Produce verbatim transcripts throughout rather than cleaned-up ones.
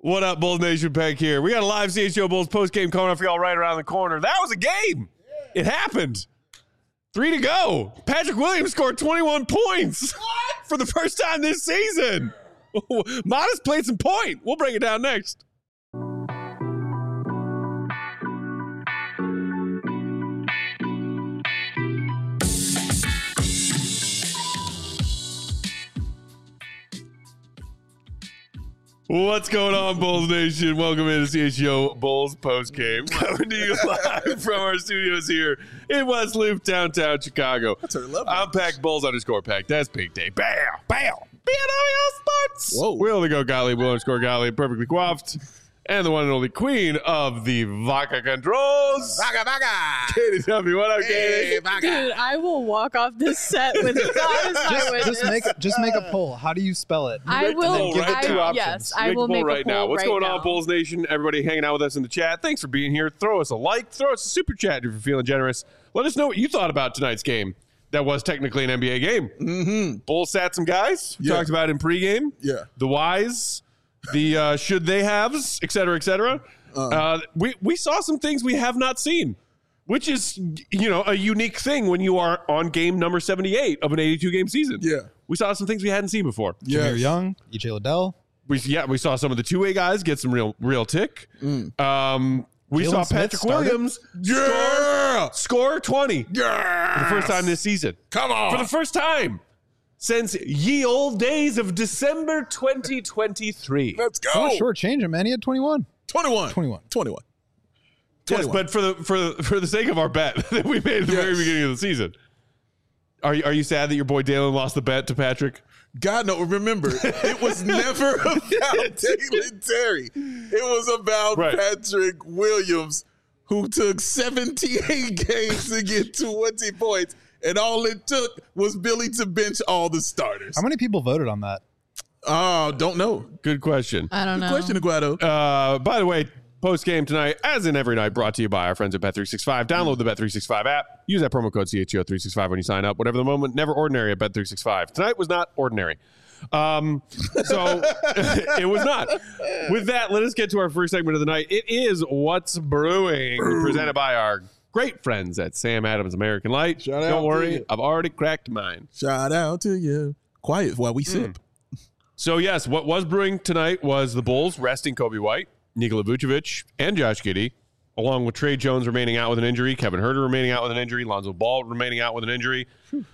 What up, Bulls Nation? Peck here. We got a live C H O Bulls post-game coming up for y'all right around the corner. That was a game. Yeah. It happened. Three to go. Patrick Williams scored twenty-one points what? for the first time this season. Modest played some point. We'll break it down next. What's going on, Bulls Nation? Welcome into C H O Bulls postgame. Coming to you live from our studios here in West Loop, downtown Chicago. That's our love. I'm Pack Bulls underscore Pack. That's Big Day. Bam! Bam! B N O Sports! Whoa. We're only go Gottlieb, Will underscore Gottlieb, perfectly coiffed. And the one and only queen of the Vaca Controls. Vaca, Vaca. Katie, tell me what up, Hey, Katie? Vaca. Dude, I will walk off this set with God as my Just, witness. just make just make a poll. How do you spell it? I Make the will. poll give right it two now. I, options. yes, I Make will the poll make right a poll now. What's right going now. on, Bulls Nation? Everybody hanging out with us in the chat. Thanks for being here. Throw us a like. Throw us a super chat if you're feeling generous. Let us know what you thought about tonight's game. That was technically an N B A game. Mm-hmm. Bulls sat some guys. We Yeah. talked about in pregame. Yeah. The whys, the uh, should they haves, et cetera, et cetera. Uh, Uh, we, we saw some things we have not seen, which is, you know, a unique thing when you are on game number seventy-eight of an eighty-two game season. Yeah. We saw some things we hadn't seen before. Yeah. Jameer Young, E J Liddell. We, yeah, we saw some of the two-way guys get some real real tick. Mm. Um, we Jalen saw Smith Patrick started. Williams Yeah. score, score twenty Yeah. for the first time this season. Come on. For the first time since ye old days of December twenty twenty-three. Let's go. Oh, short change him, man. He had twenty-one. twenty-one. twenty-one. twenty-one. Yes, twenty-one. but for the for the for the sake of our bet that we made at the Yes. very beginning of the season, are you are you sad that your boy Dalen lost the bet to Patrick? God, no, remember, it was never about Dalen Terry. It was about Right. Patrick Williams, who took seventy-eight games to get twenty points, and all it took was Billy to bench all the starters. How many people voted on that? Oh, don't know. Good question. I don't Good know. question, Aguado. Uh, by the way, post game tonight, as in every night, brought to you by our friends at Bet three sixty-five. Download the Bet three sixty-five app. Use that promo code C H O three sixty-five when you sign up. Whatever the moment, never ordinary at Bet three sixty-five. Tonight was not ordinary. Um, so it was not. With that, let us get to our first segment of the night. It is What's Brewing, presented by our great friends at Sam Adams American Light. Shout out Don't to worry, you. I've already cracked mine. Shout out to you. Quiet while we sip. So, yes, what was brewing tonight was the Bulls resting Kobe White, Nikola Vucevic, and Josh Giddey, along with Trey Jones remaining out with an injury, Kevin Huerter remaining out with an injury, Lonzo Ball remaining out with an injury.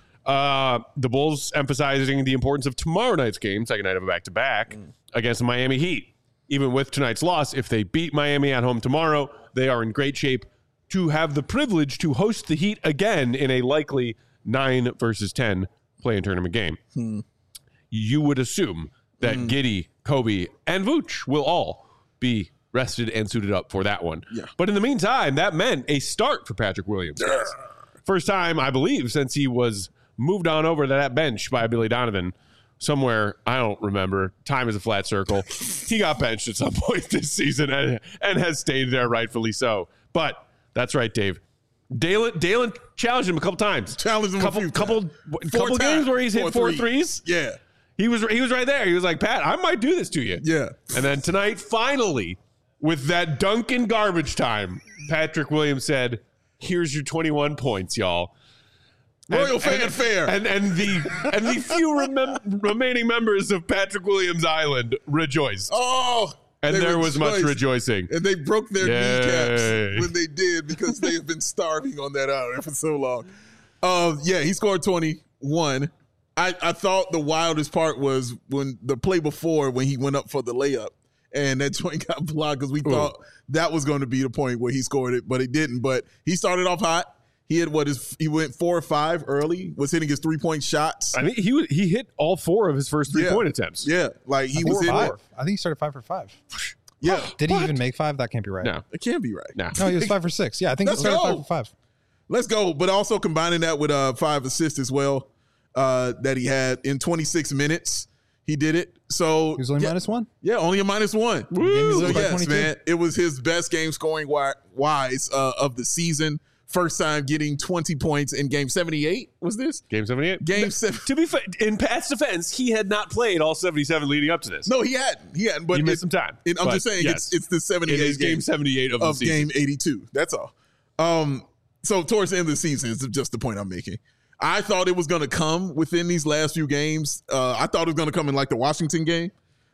Uh, the Bulls emphasizing the importance of tomorrow night's game, second night of a back-to-back, against the Miami Heat. Even with tonight's loss, if they beat Miami at home tomorrow, they are in great shape to have the privilege to host the Heat again in a likely nine versus ten play-in tournament game. Hmm. You would assume that Mm. Giddey, Kobe, and Vooch will all be rested and suited up for that one. Yeah. But in the meantime, that meant a start for Patrick Williams. guys. First time, I believe, since he was moved on over to that bench by Billy Donovan somewhere. I don't remember. Time is a flat circle. He got benched at some point this season and, and has stayed there, rightfully so. But that's right, Dave. Dalen, Dalen challenged him a couple times. Challenged him a couple, few couple, times. couple Four games times. where he's hit Four four threes. threes. Yeah. He was he was right there. He was like, Pat, I might do this to you. Yeah. And then tonight, finally, with that dunk in garbage time, Patrick Williams said, here's your twenty-one points, y'all. Royal And- fanfare. And, and, and the and the few remem- remaining members of Patrick Williams Island rejoiced. Oh. and they there was much rejoiced. rejoicing. And they broke their Yay. kneecaps when they did because they have been starving on that island for so long. Uh, yeah, he scored twenty-one. I, I thought the wildest part was when the play before when he went up for the layup and that joint got blocked because we Ooh. thought that was going to be the point where he scored it, but it didn't. But he started off hot. He had what is he went four or five early, was hitting his three point shots. I think he was, he hit all four of his first three Yeah. point attempts. Yeah, like he I think was in five. it. I think he started five for five. Yeah, Did What? he even make five? That can't be right. No, it can't be right. no. No, he was five for six. Yeah, I think he Let's started go. five for five. Let's go. But also combining that with uh, five assists as well uh, that he had in twenty-six minutes. He did it. So He was only yeah, minus one. yeah, only a minus one. Game he So lose by yes, twenty-two. man, it was his best game scoring wi- wise uh, of the season. first time getting twenty points in game seventy-eight. Was this? Game seventy-eight? Game seven. To be fair, in Pat's defense, he had not played all seventy-seven leading up to this. No, he hadn't. He hadn't. But he missed it, some time. It, I'm But just saying, yes, it's it's the seventy-eight it is game, game seventy-eight of, of the season. game eighty-two. That's all. Um, so towards the end of the season is just the point I'm making. I thought it was going to come within these last few games. Uh, I thought it was going to come in like the Washington game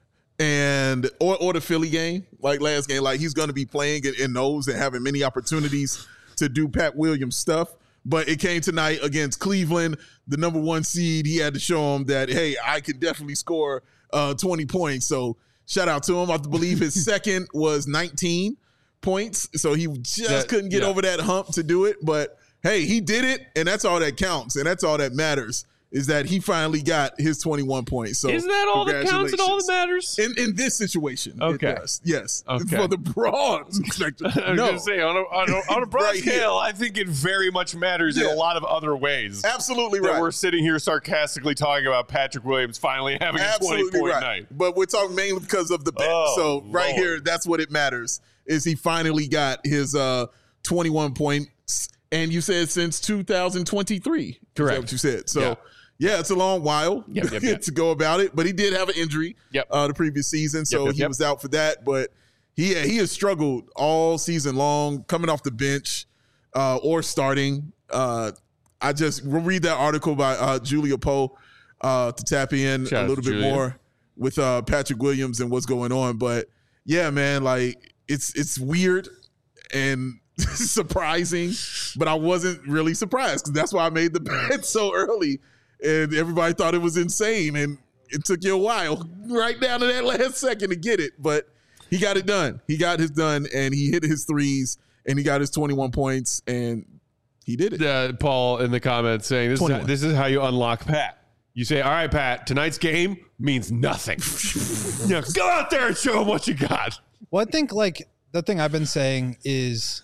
and or or the Philly game, like last game. Like he's going to be playing in, in those and having many opportunities to do Pat Williams stuff. But it came tonight against Cleveland, the number one seed. He had to show him that, hey, I could definitely score uh, twenty points. So shout out to him. I believe his second was nineteen points. So he just That- couldn't get yeah. over that hump to do it. But hey, he did it, and that's all that counts, and that's all that matters is that he finally got his twenty-one points. So Isn't that all that counts and all that congratulations. matters? In, in this situation, Okay. it does. Yes. Okay. For the broad spectrum. I was no. going to say, on a, on a, on a broad Right here. scale, I think it very much matters in Yeah. a lot of other ways. Absolutely That right. we're sitting here sarcastically talking about Patrick Williams finally having a Absolutely twenty-point right. night. But we're talking mainly because of the bet. Oh, so right Lord. here, that's what it matters, is he finally got his uh, twenty-one points. And you said since two thousand twenty-three. Is Correct. that what you said? So, Yeah. yeah, it's a long while Yep, yep, yep. to go about it. But he did have an injury Yep. uh, the previous season. So Yep, yep, he yep. was out for that. But he, he has struggled all season long, coming off the bench uh, or starting. Uh, I just will read that article by uh, Julia Poe uh, to tap in Shout out a to little bit Julia. more with uh, Patrick Williams and what's going on. But yeah, man, like it's it's weird and surprising, but I wasn't really surprised because that's why I made the bet so early, and everybody thought it was insane, and it took you a while, right down to that last second to get it, but he got it done. He got his done, and he hit his threes, and he got his twenty-one points, and he did it. Uh, Paul in the comments saying, this is, twenty-one. this is how you unlock Pat. You say, all right, Pat, tonight's game means nothing. Yeah, go out there and show him what you got. Well, I think like the thing I've been saying is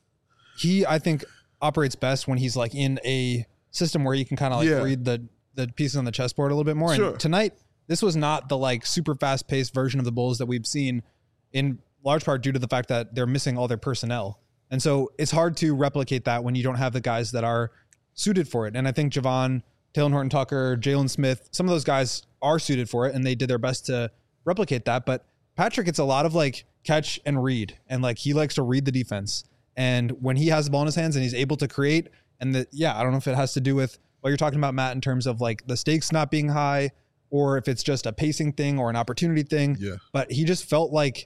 he, I think, operates best when he's like in a system where you can kind of like Yeah. read the the pieces on the chessboard a little bit more. Sure. And tonight, this was not the like super fast paced version of the Bulls that we've seen, in large part due to the fact that they're missing all their personnel. And so it's hard to replicate that when you don't have the guys that are suited for it. And I think Javon, Taylor Horton Tucker, Jalen Smith, some of those guys are suited for it and they did their best to replicate that. But Patrick, it's a lot of like catch and read. And like he likes to read the defense. And when he has the ball in his hands and he's able to create, and the, yeah, I don't know if it has to do with what you're talking about, Matt, in terms of like the stakes not being high or if it's just a pacing thing or an opportunity thing. Yeah. But he just felt like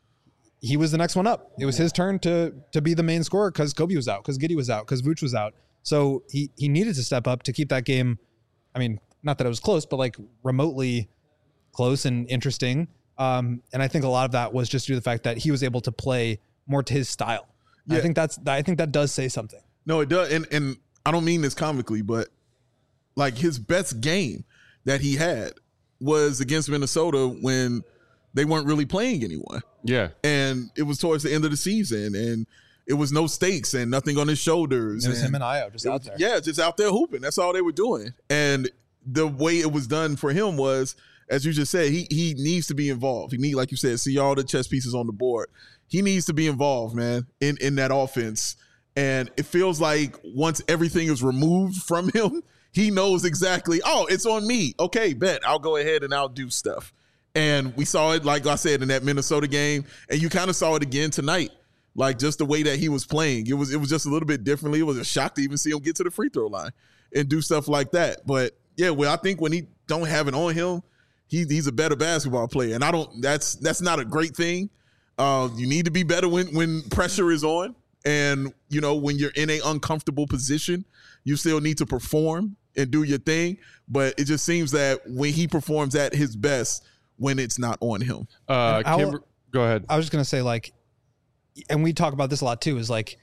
he was the next one up. It was his turn to to be the main scorer because Kobe was out, because Giddey was out, because Vooch was out. So he he needed to step up to keep that game. I mean, not that it was close, but like remotely close and interesting. Um, and I think a lot of that was just due to the fact that he was able to play more to his style. Yeah. I think that's I think that does say something. No, it does. And and I don't mean this comically, but like his best game that he had was against Minnesota when they weren't really playing anyone. Yeah. And it was towards the end of the season and it was no stakes and nothing on his shoulders. It was him and Io just it out was- there. Yeah, just out there hooping. That's all they were doing. And the way it was done for him was, as you just said, he he needs to be involved. He need, like you said, see all the chess pieces on the board. He needs to be involved, man, in, in that offense. And it feels like once everything is removed from him, he knows exactly, oh, it's on me. Okay, bet. I'll go ahead and I'll do stuff. And we saw it, like I said, in that Minnesota game. And you kind of saw it again tonight. Like just the way that he was playing. It was it was just a little bit differently. It was a shock to even see him get to the free throw line and do stuff like that. But yeah, well, I think when he don't have it on him, he, he's a better basketball player. And I don't that's that's not a great thing. Uh, you need to be better when when pressure is on. And, you know, when you're in an uncomfortable position, you still need to perform and do your thing. But it just seems that when he performs at his best, when it's not on him. Uh, And I'll- Kimber- go ahead. I was just gonna say, like, and we talk about this a lot too, is like,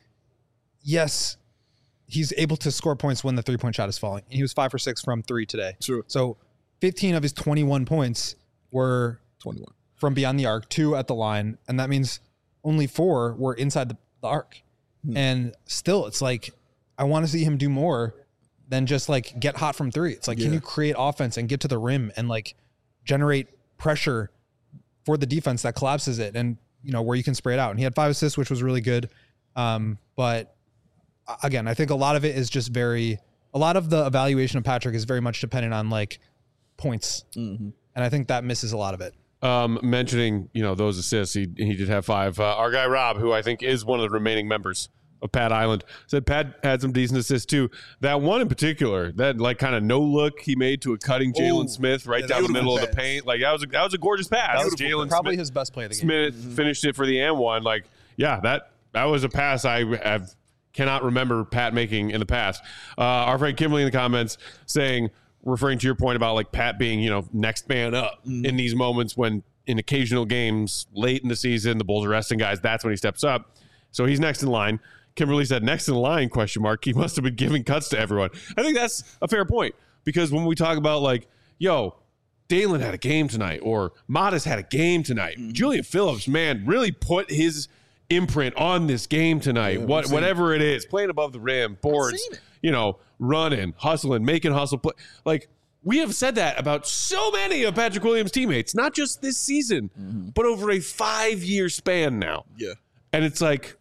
yes, he's able to score points when the three point shot is falling. And he was five for six from three today. True. So fifteen of his twenty-one points were twenty-one. from beyond the arc, two at the line, and that means only four were inside the, the arc. Hmm. And still, it's like, I want to see him do more than just like get hot from three. It's like, can Yeah. you create offense and get to the rim and like generate pressure for the defense that collapses it, and you know where you can spray it out. And he had five assists, which was really good. Um, but again, I think a lot of it is just very, a lot of the evaluation of Patrick is very much dependent on like points. Mm-hmm. And I think that misses a lot of it. Um, mentioning, you know, those assists, he, he did have five. Uh, our guy Rob, who I think is one of the remaining members of Pat Island, said Pat had some decent assists too. That one in particular, that like kind of no look he made to a cutting Jalen Smith right yeah, down the middle pass. of the paint. Like that was a, that was a gorgeous pass. That was Jalen probably Smith, his best play of the game. Smith mm-hmm. finished it for the and one. Like, yeah, that that was a pass I have cannot remember Pat making in the past. Uh, our friend Kimberly in the comments saying, referring to your point about like Pat being, you know, next man up mm-hmm. in these moments when in occasional games late in the season, the Bulls are resting guys. That's when he steps up. So he's next in line. Kimberly said next in line, question mark. He must have been giving cuts to everyone. I think that's a fair point because when we talk about like, yo, Dalen had a game tonight or Modest had a game tonight. Mm-hmm. Julian Phillips, man, really put his imprint on this game tonight. Yeah, what whatever it. it is, playing above the rim, boards, you know, running, hustling, making hustle play. Like we have said that about so many of Patrick Williams' teammates, not just this season, mm-hmm. but over a five-year span now. Yeah. And it's like,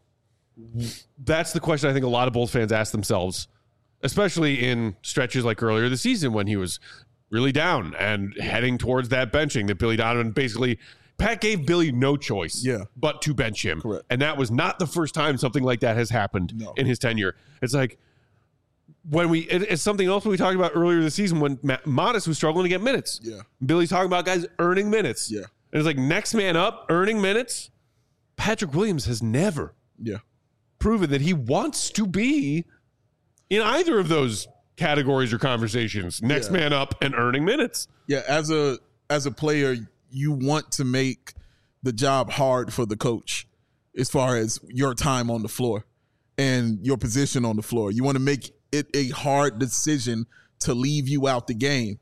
that's the question I think a lot of Bulls fans ask themselves, especially in stretches like earlier this season when he was really down and heading towards that benching that Billy Donovan basically, Pat gave Billy no choice yeah. but to bench him. Correct. And that was not the first time something like that has happened no. in his tenure. It's like when we, it, it's something else we talked about earlier this season when Ma- Modest was struggling to get minutes. Yeah. Billy's talking about guys earning minutes. Yeah. And it's like next man up, earning minutes. Patrick Williams has never. Yeah. proven that he wants to be in either of those categories or conversations, next yeah. man up and earning minutes. Yeah, as a as a player, you want to make the job hard for the coach as far as your time on the floor and your position on the floor. You want to make it a hard decision to leave you out the game.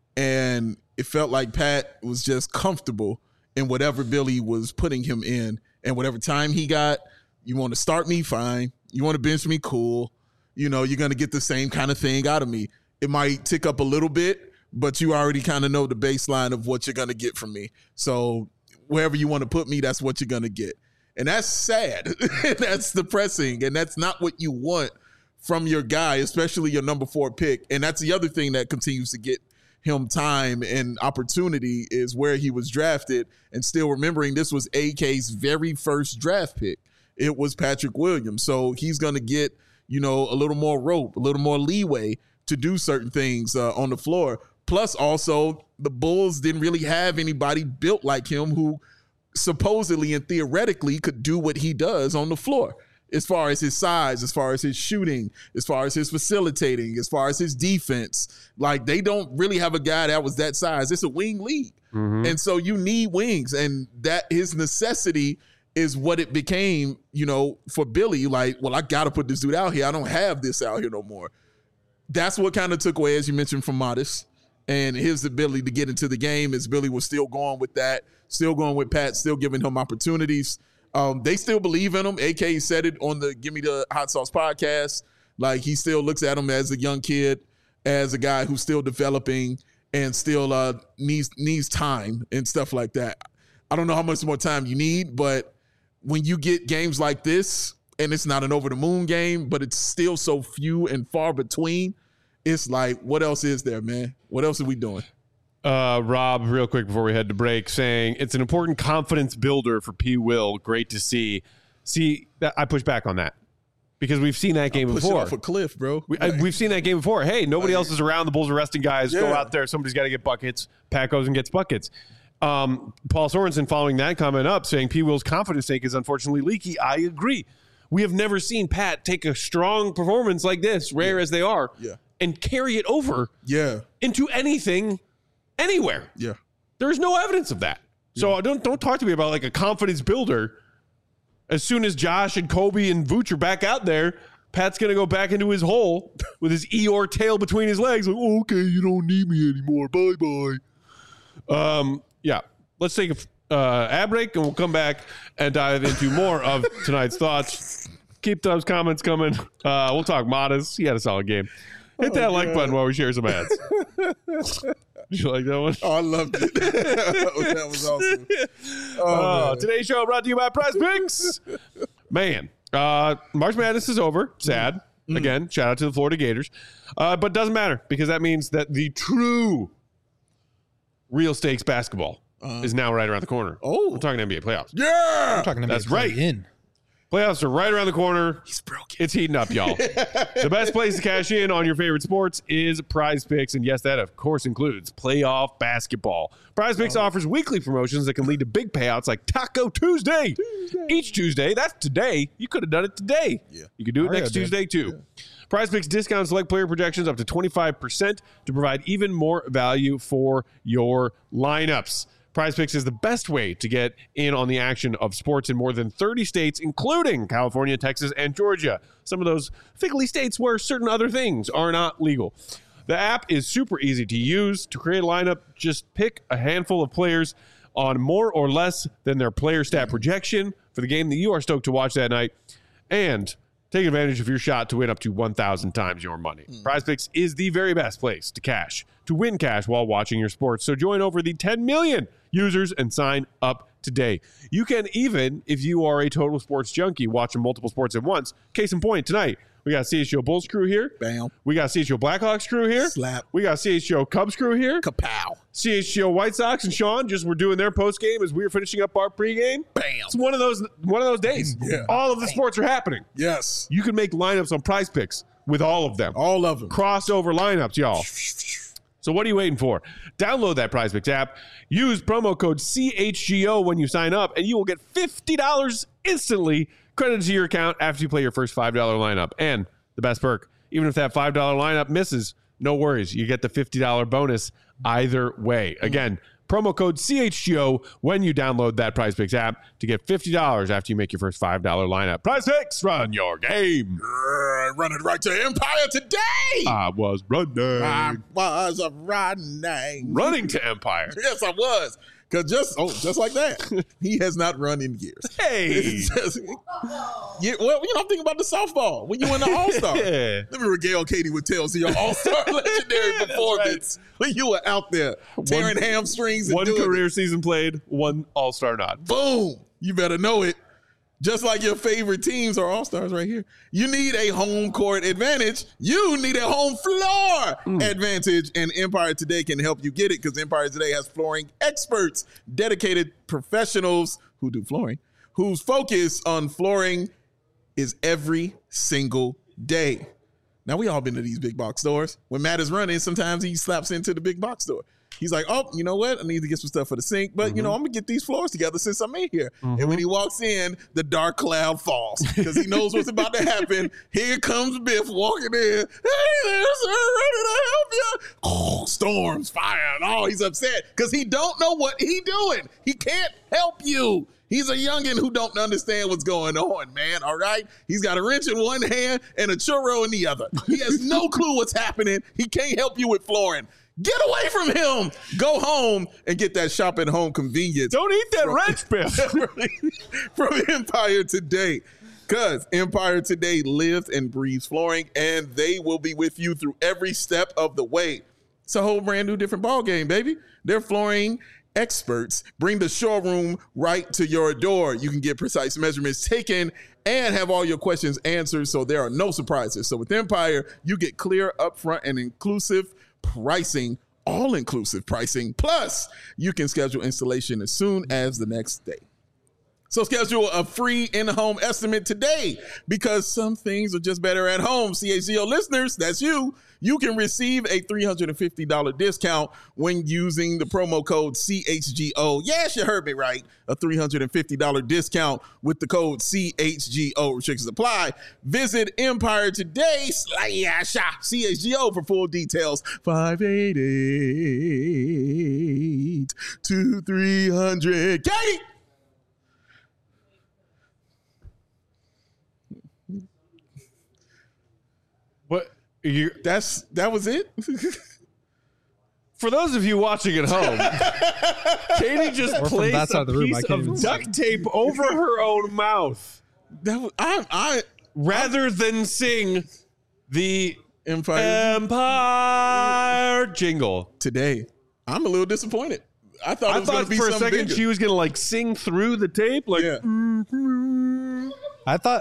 And it felt like Pat was just comfortable in whatever Billy was putting him in and whatever time he got. You want to start me, fine. You want to bench me, cool. You know, you're going to get the same kind of thing out of me. It might tick up a little bit, but you already kind of know the baseline of what you're going to get from me. So wherever you want to put me, that's what you're going to get. And that's sad. That's depressing. And that's not what you want from your guy, especially your number four pick. And that's the other thing that continues to get him time and opportunity is where he was drafted. And still remembering this was A K's very first draft pick. It was Patrick Williams. So he's going to get, you know, a little more rope, a little more leeway to do certain things uh, on the floor. Plus, also, the Bulls didn't really have anybody built like him who supposedly and theoretically could do what he does on the floor as far as his size, as far as his shooting, as far as his facilitating, as far as his defense. Like, they don't really have a guy that was that size. It's a wing league. Mm-hmm. And so you need wings. And that his necessity is what it became, you know, for Billy. Like, well, I got to put this dude out here. I don't have this out here no more. That's what kind of took away, as you mentioned, from Modest. And his ability to get into the game as Billy was still going with that, still going with Pat, still giving him opportunities. Um, they still believe in him. A K said it on the Give Me the Hot Sauce podcast. Like, he still looks at him as a young kid, as a guy who's still developing and still uh, needs needs time and stuff like that. I don't know how much more time you need, but when you get games like this, and it's not an over-the-moon game, but it's still so few and far between, it's like, what else is there, man? What else are we doing? Uh, Rob, real quick before we head to break, saying it's an important confidence builder for P. Will. Great to see. See, that, I push back on that because we've seen that game I'm before. Off a cliff, bro. We, I, we've seen that game before. Hey, nobody else is around. The Bulls are resting guys. Yeah. Go out there. Somebody's got to get buckets. Pat goes and gets buckets. Um, Paul Sorensen following that comment up saying P. Will's confidence tank is unfortunately leaky. I agree. We have never seen Pat take a strong performance like this, rare yeah. as they are, yeah. and carry it over yeah. into anything, anywhere. Yeah. There's no evidence of that. Yeah. So don't don't talk to me about like a confidence builder. As soon as Josh and Kobe and Vooch are back out there, Pat's going to go back into his hole with his Eeyore tail between his legs. Like, oh, okay, you don't need me anymore. Bye-bye. Um, yeah, let's take a uh, ad break, and we'll come back and dive into more of tonight's thoughts. Keep those comments coming. Uh, we'll talk Modest. He had a solid game. Hit that oh, like God. button while we share some ads. Did you like that one? Oh, I loved it. That was awesome. Oh, uh, today's show brought to you by Prize Picks. Man, uh, March Madness is over. Sad. Again, shout out to the Florida Gators. Uh, but doesn't matter because that means that the true real stakes basketball uh, is now right around the corner. Oh. We're talking N B A playoffs. Yeah. I'm talking about That's right. in. Playoffs are right around the corner. He's broken. It's heating up, y'all. The best place to cash in on your favorite sports is Prize Picks. And yes, that of course includes playoff basketball. Prize Picks oh. offers weekly promotions that can lead to big payouts like Taco Tuesday. Tuesday. Each Tuesday, that's today. You could have done it today. Yeah. You could do it Mario next did. Tuesday too. Yeah. Prize Picks discounts select player projections up to twenty-five percent to provide even more value for your lineups. Prize Picks is the best way to get in on the action of sports in more than thirty states, including California, Texas, and Georgia. Some of those fickly states where certain other things are not legal. The app is super easy to use. To create a lineup, just pick a handful of players on more or less than their player stat projection for the game that you are stoked to watch that night, and take advantage of your shot to win up to one thousand times your money. Mm. Prize Picks is the very best place to cash, to win cash while watching your sports. So join over the ten million users and sign up today. You can even, if you are a total sports junkie, watching multiple sports at once. Case in point, tonight, we got C H G O Bulls crew here. Bam. We got C H G O Blackhawks crew here. Slap. We got C H G O Cubs crew here. Kapow. C H G O White Sox and Sean just were doing their post game as we were finishing up our pregame. Bam. It's one of those one of those days. Yeah. All of the sports are happening. Yes. You can make lineups on Prize Picks with all of them. All of them. Crossover lineups, y'all. So what are you waiting for? Download that Prize Picks app. Use promo code C H G O when you sign up, and you will get fifty dollars instantly credited to your account after you play your first five dollar lineup. And the best perk, even if that five dollar lineup misses, no worries. You get the fifty dollar bonus either way. Again, promo code C H G O when you download that Prize Picks app to get fifty dollars after you make your first five dollar lineup. Prize Picks, run your game. Uh, running right to Empire today. I was running. I was a running. Running to Empire. Yes, I was. Because just oh, just like that, he has not run in years. Hey. Just, yeah, well, you know, I'm thinking about the softball. When you win the All-Star. Yeah. Let me regale Katie with tales of your All-Star legendary performance. Right. When you were out there tearing one, hamstrings and one doing career it. season played, one All-Star nod. Boom. You better know it. Just like your favorite teams are all-stars right here. You need a home court advantage. You need a home floor mm. advantage. And Empire Today can help you get it because Empire Today has flooring experts, dedicated professionals who do flooring, whose focus on flooring is every single day. Now, we all been to these big box stores. When Matt is running, sometimes he slaps into the big box store. He's like, oh, you know what? I need to get some stuff for the sink, but, mm-hmm. you know, I'm going to get these floors together since I'm in here. Mm-hmm. And when he walks in, the dark cloud falls because he knows what's about to happen. Here comes Biff walking in. Hey there, sir, ready to help you? Oh, storms, fire. Oh, he's upset because he don't know what he doing. He can't help you. He's a youngin' who don't understand what's going on, man, all right? He's got a wrench in one hand and a churro in the other. He has no clue what's happening. He can't help you with flooring. Get away from him. Go home and get that shop at home convenience. Don't eat that wrench, Biff. From Empire Today. Because Empire Today lives and breathes flooring, and they will be with you through every step of the way. It's a whole brand new different ball game, baby. They're flooring experts. Bring the showroom right to your door. You can get precise measurements taken and have all your questions answered, so there are no surprises. So with Empire, you get clear, upfront, and inclusive pricing, all-inclusive pricing. Plus, you can schedule installation as soon as the next day. So schedule a free in-home estimate today because some things are just better at home. C H G O listeners, that's you. You can receive a three hundred fifty dollars discount when using the promo code C H G O. Yes, you heard me right. A three hundred fifty dollars discount with the code C H G O. Restrictions apply. Visit Empire Today slash C H G O for full details. five eight eight, two three hundred. Katie! What? You, That's that was it. For those of you watching at home, Katie just Or from placed that side a of the room, I piece can't of even duct tape over her own mouth That was, I I rather than sing the Empire Empire jingle. Today. I'm a little disappointed. I thought it I was going thought to be for a something second bigger. she was going to like sing through the tape. Like, Yeah. mm-hmm. I thought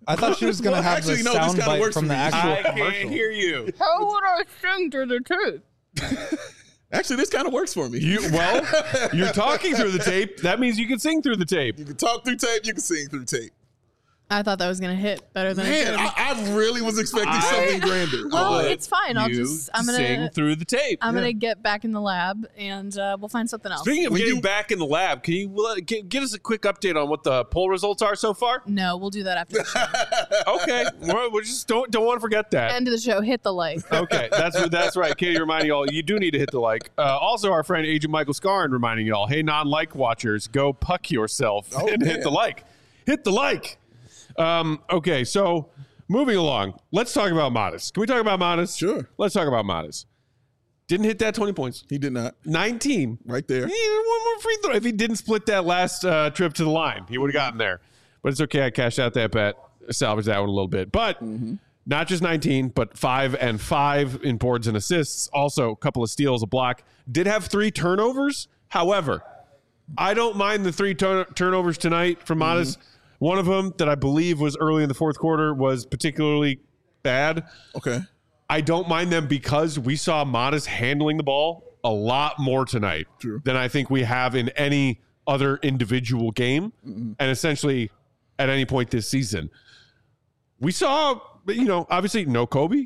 I thought she was gonna Well, have actually, the no, this sound kinda bite works from for the me. actual I commercial. can't hear you. How would I sing through the tape? Actually, this kind of works for me. You well, you're talking through the tape. That means you can sing through the tape. You can talk through tape. You can sing through tape. I thought that was gonna hit better than it Man, did. I, I really was expecting I- something grander. well, But it's fine. I'll you just I'm gonna sing through the tape. I'm gonna get back in the lab and uh, we'll find something else. Speaking of When getting you- back in the lab, can you let, get, get us a quick update on what the poll results are so far? No, we'll do that after the show. Okay, well, we just don't don't want to forget that. End of the show. Hit the like. Okay, that's that's right. Katie reminding y'all, you do need to hit the like. Uh, also, our friend Agent Michael Scarn reminding y'all, hey, non-like watchers, go puck yourself Oh, and hit man. the like. Hit the like. Um, okay, so moving along, let's talk about Modest. Can we talk about Modest? Sure. Let's talk about Modest. Didn't hit that twenty points. He did not. nineteen. Right there. He needed one more free throw. If he didn't split that last uh, trip to the line, he would have gotten there. But it's okay. I cashed out that bet, salvaged that one a little bit. But not just nineteen, but five and five in boards and assists. Also, a couple of steals, a block. Did have three turnovers. However, I don't mind the three turn- turnovers tonight from Modest. One of them that I believe was early in the fourth quarter was particularly bad. Okay. I don't mind them because we saw Modest handling the ball a lot more tonight True. than I think we have in any other individual game, Mm-hmm. and essentially at any point this season. We saw, you know, obviously no Kobe,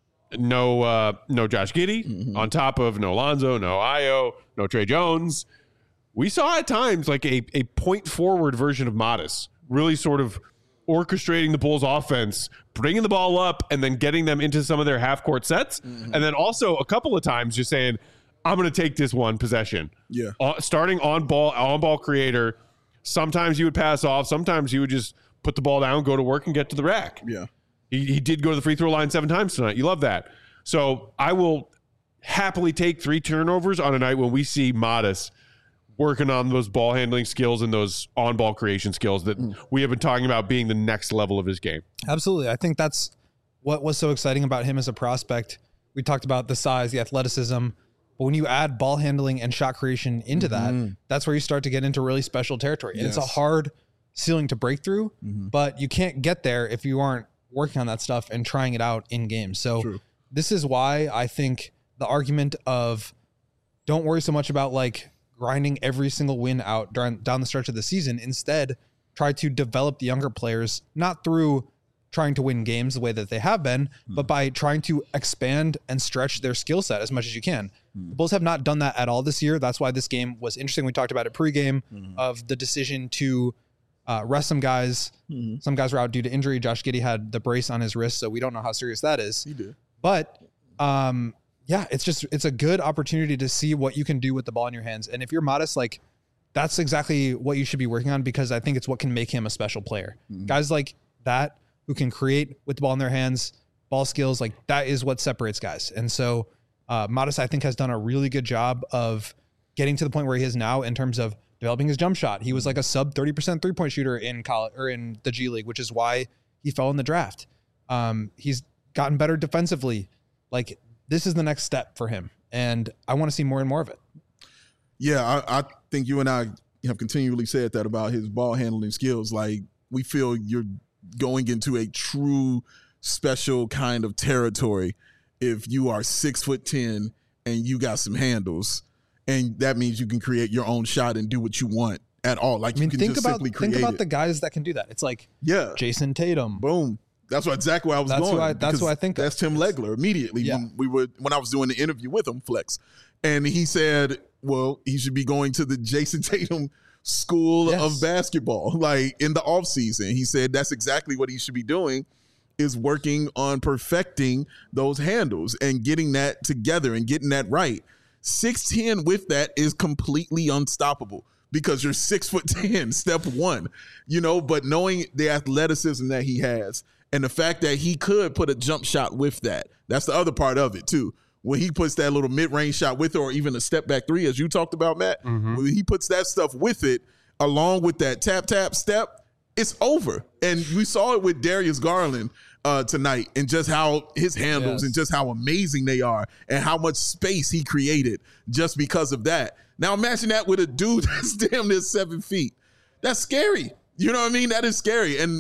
no uh, no Josh Giddey, Mm-hmm. on top of no Lonzo, no Ayo, no Trey Jones. We saw at times like a, a point forward version of Modest, really sort of orchestrating the Bulls offense, bringing the ball up, and then getting them into some of their half court sets. Mm-hmm. And then also a couple of times just saying, I'm going to take this one possession. Yeah. Uh, starting on ball, on ball creator. Sometimes you would pass off. Sometimes you would just put the ball down, go to work, and get to the rack. Yeah. He, he did go to the free throw line seven times tonight. You love that. So I will happily take three turnovers on a night when we see Modest working on those ball handling skills and those on ball creation skills that we have been talking about being the next level of his game. Absolutely. I think that's what was so exciting about him as a prospect. We talked about the size, the athleticism, but when you add ball handling and shot creation into that, that's where you start to get into really special territory. And it's a Yes. hard ceiling to break through, but you can't get there if you aren't working on that stuff and trying it out in games. So True. this is why I think the argument of don't worry so much about like grinding every single win out down, down the stretch of the season. Instead, try to develop the younger players, not through trying to win games the way that they have been, but by trying to expand and stretch their skill set as much as you can. The Bulls have not done that at all this year. That's why this game was interesting. We talked about it pregame of the decision to uh, rest some guys. Some guys were out due to injury. Josh Giddey had the brace on his wrist, so we don't know how serious that is. He did. But um, yeah, it's just it's a good opportunity to see what you can do with the ball in your hands. And if you're Modest, like that's exactly what you should be working on, because I think it's what can make him a special player. Guys like that who can create with the ball in their hands, ball skills, like that is what separates guys. And so uh, Modest, I think, has done a really good job of getting to the point where he is now in terms of developing his jump shot. He was like a sub thirty percent three point shooter in college or in the G League, which is why he fell in the draft. Um, he's gotten better defensively. Like this is the next step for him. And I want to see more and more of it. Yeah, I, I think you and I have continually said that about his ball handling skills. Like we feel you're going into a true special kind of territory if you are six foot ten and you got some handles, and that means you can create your own shot and do what you want at all. Like I mean, you can think just about simply create think about it. the guys that can do that. It's like yeah, Jason Tatum. boom. That's what exactly where I was That's going. who I- that's because who I think of. That's Tim Legler immediately Yeah. when we were when I was doing the interview with him, Flex, and he said, "Well, he should be going to the Jason Tatum school Yes. of basketball, like in the off season." He said that's exactly what he should be doing, is working on perfecting those handles and getting that together and getting that right. six ten with that is completely unstoppable because you're six foot ten, step one, you know, but knowing the athleticism that he has and the fact that he could put a jump shot with that, that's the other part of it too. When he puts that little mid-range shot with it, or even a step back three, as you talked about, Matt, when he puts that stuff with it, along with that tap, tap, step, it's over. And we saw it with Darius Garland uh, tonight, and just how his handles Yes. and just how amazing they are and how much space he created just because of that. Now imagine that with a dude that's damn near seven feet. That's scary. You know what I mean? That is scary. And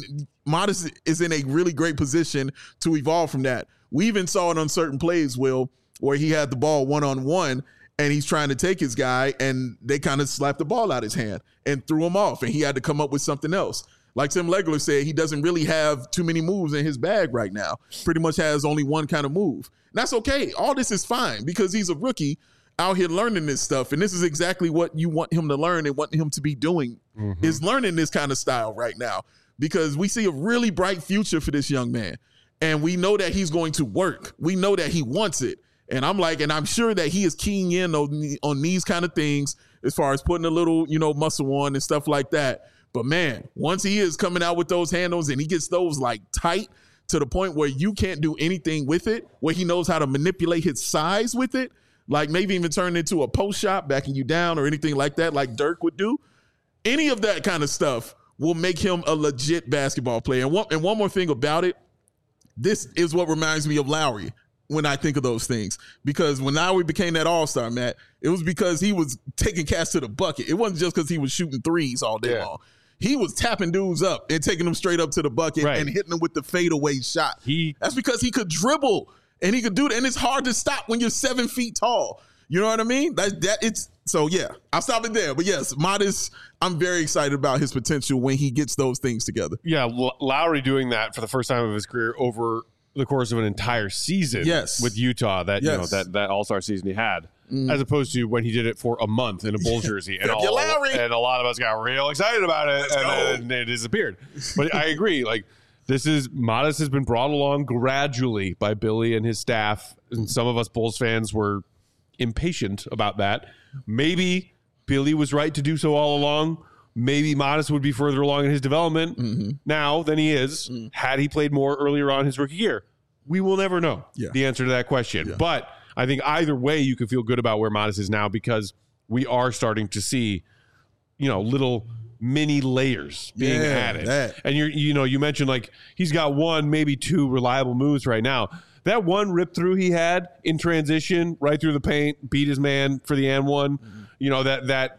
Modest is in a really great position to evolve from that. We even saw it on certain plays, Will, where he had the ball one-on-one and he's trying to take his guy and they kind of slapped the ball out his hand and threw him off and he had to come up with something else. Like Tim Legler said, he doesn't really have too many moves in his bag right now. Pretty much has only one kind of move. And that's okay. All this is fine because he's a rookie out here learning this stuff. And this is exactly what you want him to learn and want him to be doing mm-hmm. is learning this kind of style right now because we see a really bright future for this young man. And we know that he's going to work. We know that he wants it. And I'm like, and I'm sure that he is keying in on, on these kind of things as far as putting a little, you know, muscle on and stuff like that. But man, once he is coming out with those handles and he gets those like tight to the point where you can't do anything with it, where he knows how to manipulate his size with it, like maybe even turn it into a post shot, backing you down or anything like that, like Dirk would do. Any of that kind of stuff will make him a legit basketball player. And one, and one more thing about it, this is what reminds me of Lowry when I think of those things. Because when Lowry became that all-star, Matt, it was because he was taking cats to the bucket. It wasn't just because he was shooting threes all day yeah. long. He was tapping dudes up and taking them straight up to the bucket right. and hitting them with the fadeaway shot. He, That's because he could dribble and he could do that. And it's hard to stop when you're seven feet tall. You know what I mean? That, that it's so, yeah, I'll stop it there. But yes, Modest, I'm very excited about his potential when he gets those things together. Yeah, L- Lowry doing that for the first time of his career over the course of an entire season yes. with Utah, that yes. you know that, that all-star season he had. Mm. As opposed to when he did it for a month in a Bulls jersey, and, all, and a lot of us got real excited about it, Let's and then it disappeared. But I agree, like this is Modest has been brought along gradually by Billy and his staff, and some of us Bulls fans were impatient about that. Maybe Billy was right to do so all along. Maybe Modest would be further along in his development mm-hmm. now than he is mm. had he played more earlier on his rookie year. We will never know yeah. the answer to that question, yeah. but. I think either way you can feel good about where Modest is now because we are starting to see, you know, little mini layers being yeah, added. That. And you're, you know, you mentioned like he's got one, maybe two reliable moves right now. That one rip through he had in transition, right through the paint, beat his man for the and one. Mm-hmm. You know, that, that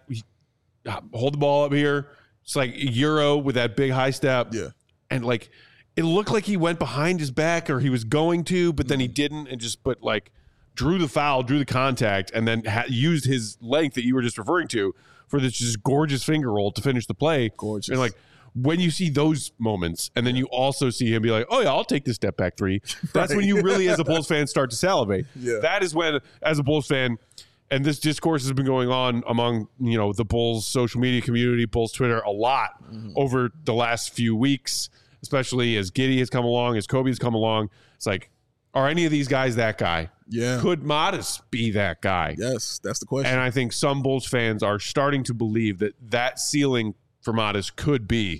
hold the ball up here. It's like Euro with that big high step. Yeah. And like, it looked like he went behind his back or he was going to, but then he didn't and just put like, drew the foul, drew the contact, and then ha- used his length that you were just referring to for this just gorgeous finger roll to finish the play. Gorgeous. And like when you see those moments, and then you also see him be like, "Oh yeah, I'll take this step back three." That's right. When you really, as a Bulls fan, start to salivate. Yeah. That is when, as a Bulls fan, and this discourse has been going on among you know the Bulls social media community, Bulls Twitter, a lot mm-hmm. over the last few weeks, especially as Giddey has come along, as Kobe has come along. It's like, are any of these guys that guy? Yeah. Could Modest be that guy? Yes, that's the question. And I think some Bulls fans are starting to believe that that ceiling for Modest could be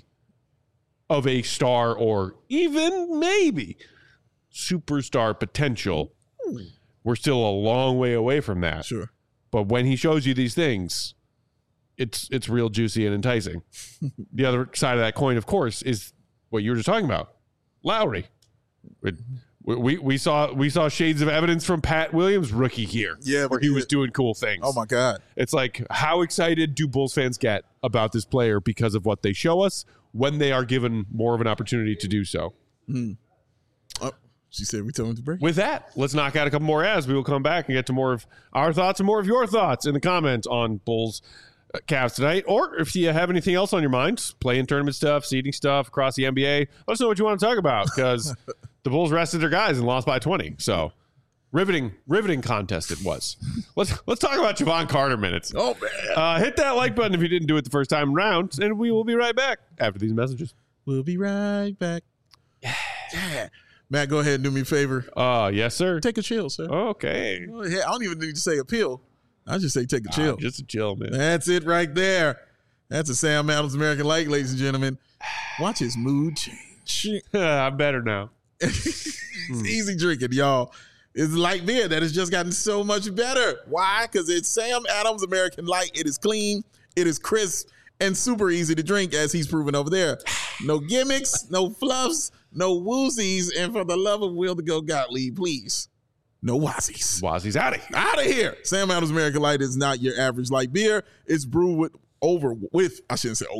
of a star or even maybe superstar potential. Hmm. We're still a long way away from that. Sure. But when he shows you these things, it's it's real juicy and enticing. The other side of that coin, of course, is what you were just talking about. Lowry. It, We we saw we saw shades of evidence from Pat Williams' rookie year, yeah, where he was doing cool things. Oh my God! It's like, how excited do Bulls fans get about this player because of what they show us when they are given more of an opportunity to do so? Mm. Oh, she said we told him to break. With that, let's knock out a couple more ads. We will come back and get to more of our thoughts and more of your thoughts in the comments on Bulls uh, Cavs tonight. Or if you have anything else on your mind, playing tournament stuff, seeding stuff across the N B A, let us know what you want to talk about because. The Bulls rested their guys and lost by twenty. So riveting, riveting contest it was. Let's let's talk about Javon Carter minutes. Oh man! Uh, hit that like button if you didn't do it the first time around, and we will be right back after these messages. We'll be right back. Yeah, yeah. Matt, go ahead and do me a favor. Uh, yes, sir. Take a chill, sir. Okay. I don't even need to say a pill. I just say take a chill. Ah, just a chill, man. That's it right there. That's a Sam Adams American Light, ladies and gentlemen. Watch his mood change. I'm better now. It's mm. easy drinking, y'all. It's light beer that has just gotten so much better. Why? Because it's Sam Adams American Light. It is clean, it is crisp, and super easy to drink, as he's proven over there. No gimmicks, no fluffs, no woozies, and for the love of Will to go Gottlieb, please, no wazzies. Wazzies out of here. Out of here. Sam Adams American Light is not your average light beer. It's brewed with over with I shouldn't say over.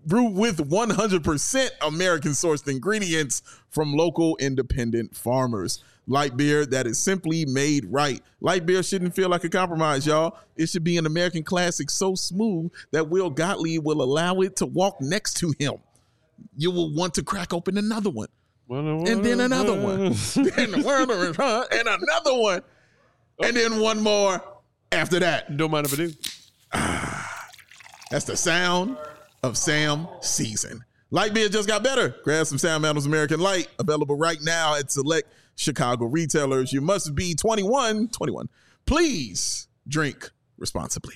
brewed with one hundred percent American sourced ingredients from local independent farmers. Light beer that is simply made right. Light beer shouldn't feel like a compromise, y'all. It should be an American classic so smooth that Will Gottlieb will allow it to walk next to him. You will want to crack open another one. And then another one. and another one. And then one more after that. Don't mind if I do. That's the sound of Sam Season. Light beer just got better. Grab some Sam Adams American Light, available right now at select Chicago retailers. You must be twenty-one. twenty-one. Please drink responsibly.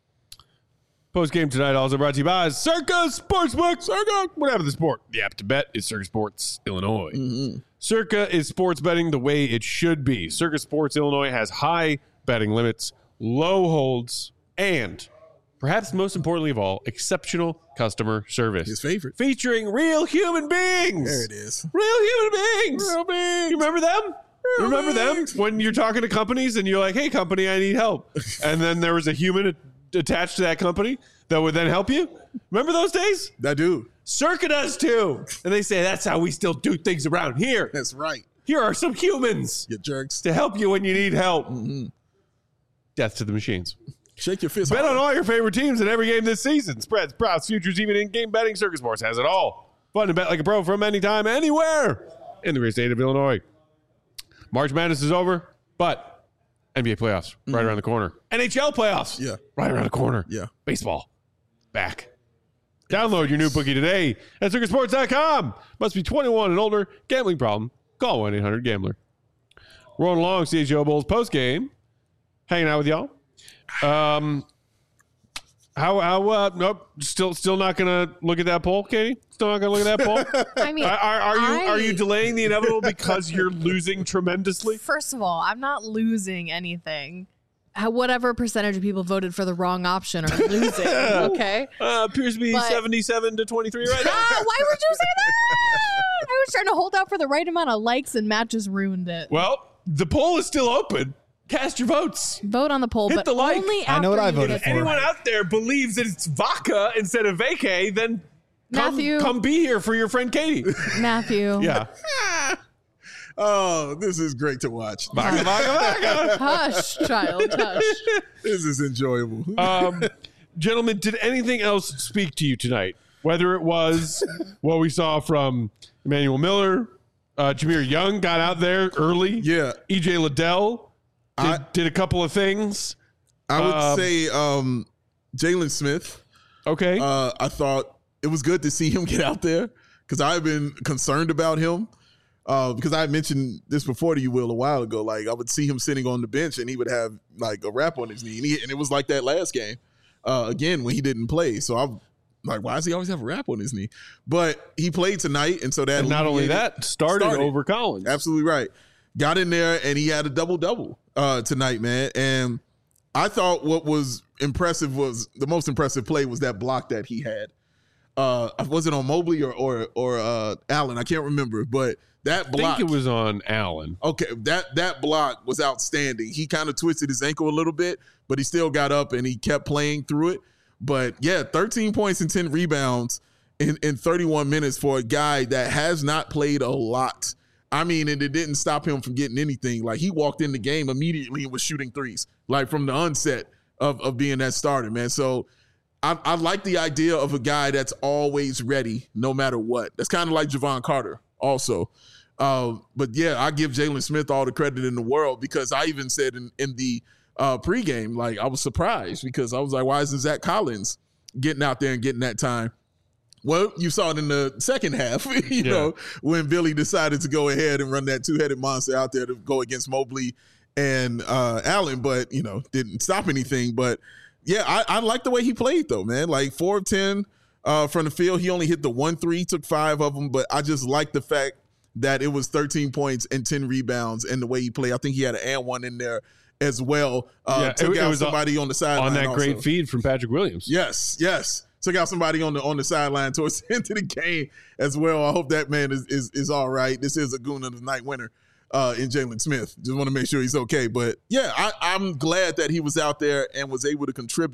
Post game tonight also brought to you by Circa Sportsbook. Circa, whatever the sport. The app to bet is Circa Sports Illinois. Mm-hmm. Circa is sports betting the way it should be. Circa Sports Illinois has high betting limits, low holds, and perhaps most importantly of all, exceptional customer service. His favorite. Featuring real human beings. There it is. Real human beings. Real beings. You remember them? Real remember beings. them? When you're talking to companies and you're like, hey, company, I need help. And then there was a human attached to that company that would then help you. Remember those days? That dude. Circa does too. And they say that's how we still do things around here. That's right. Here are some humans. You jerks. To help you when you need help. Mm-hmm. Death to the machines. Shake your fist. Bet hard. on all your favorite teams in every game this season. Spreads, props, futures, even in-game betting. Circa Sports has it all. Fun to bet like a pro from anytime, anywhere in the great state of Illinois. March Madness is over, but N B A playoffs right Mm-hmm. around the corner. N H L playoffs Yeah. right around the corner. Yeah. Baseball back. Download your new bookie today at circa sports dot com. Must be twenty-one and older. Gambling problem? Call one eight hundred gambler. Rolling along, C H O Bulls post game. Hanging out with y'all. Um, how how uh nope still still not gonna look at that poll, Katie. Still not gonna look at that poll. I mean, are, are, are you I- are you delaying the inevitable because you're losing tremendously? First of all, I'm not losing anything. How, whatever percentage of people voted for the wrong option are losing. Okay. Uh, appears to be But- seventy-seven to twenty-three right now. Ah, why would you say that? I was trying to hold out for the right amount of likes, and Matt just ruined it. Well, the poll is still open. Cast your votes. Vote on the poll, Hit but the like. only I after know what I you voted get for. Anyone out there believes that it's vodka instead of vacay, then come, Matthew. come be here for your friend Katie. Matthew. Yeah. Oh, this is great to watch. Vodka, vodka, vodka. Hush, child, hush. This is enjoyable. Um, gentlemen, did anything else speak to you tonight? Whether it was what we saw from Emmanuel Miller, uh, Jameer Young got out there early. Yeah. E J Liddell did, I- did a couple of things. I would um, say um, Jalen Smith. Okay. Uh, I thought it was good to see him get out there because I've been concerned about him. Uh, because I mentioned this before to you, Will, a while ago. Like I would see him sitting on the bench and he would have like a wrap on his knee, and, he, and it was like that last game uh, again when he didn't play. So I'm like, why does he always have a wrap on his knee? But he played tonight, and so that and not only alleviated- that, started, started. over Collins. Absolutely right. Got in there and he had a double double uh, tonight, man. And I thought what was impressive was the most impressive play was that block that he had. Uh, was it on Mobley or or or uh, Allen? I can't remember, but that I block. think it was on Allen. Okay, that that block was outstanding. He kind of twisted his ankle a little bit, but he still got up and he kept playing through it. But yeah, thirteen points and ten rebounds in, in thirty-one minutes for a guy that has not played a lot. I mean, and it didn't stop him from getting anything. Like he walked in the game immediately and was shooting threes, like from the onset of, of being that starter, man. So I, I like the idea of a guy that's always ready no matter what. That's kind of like Javon Carter also. Uh, but yeah, I give Jalen Smith all the credit in the world because I even said in, in the uh, pregame, like I was surprised because I was like, why isn't Zach Collins getting out there and getting that time? Well, you saw it in the second half, you Yeah. know, when Billy decided to go ahead and run that two-headed monster out there to go against Mobley and uh, Allen, but, you know, didn't stop anything. But, yeah, I, I like the way he played, though, man. Like, four of ten uh, from the field. He only hit the one three, took five of them, but I just like the fact that it was thirteen points and ten rebounds and the way he played. I think he had an and one in there as well. Uh, Yeah, took it- it out was on- somebody on the sideline On that also. great feed from Patrick Williams. Yes, yes. Took out somebody on the on the sideline towards the end of the game as well. I hope that man is is, is all right. This is a goon of the night winner uh, in Jalen Smith. Just want to make sure he's okay. But yeah, I, I'm glad that he was out there and was able to contribute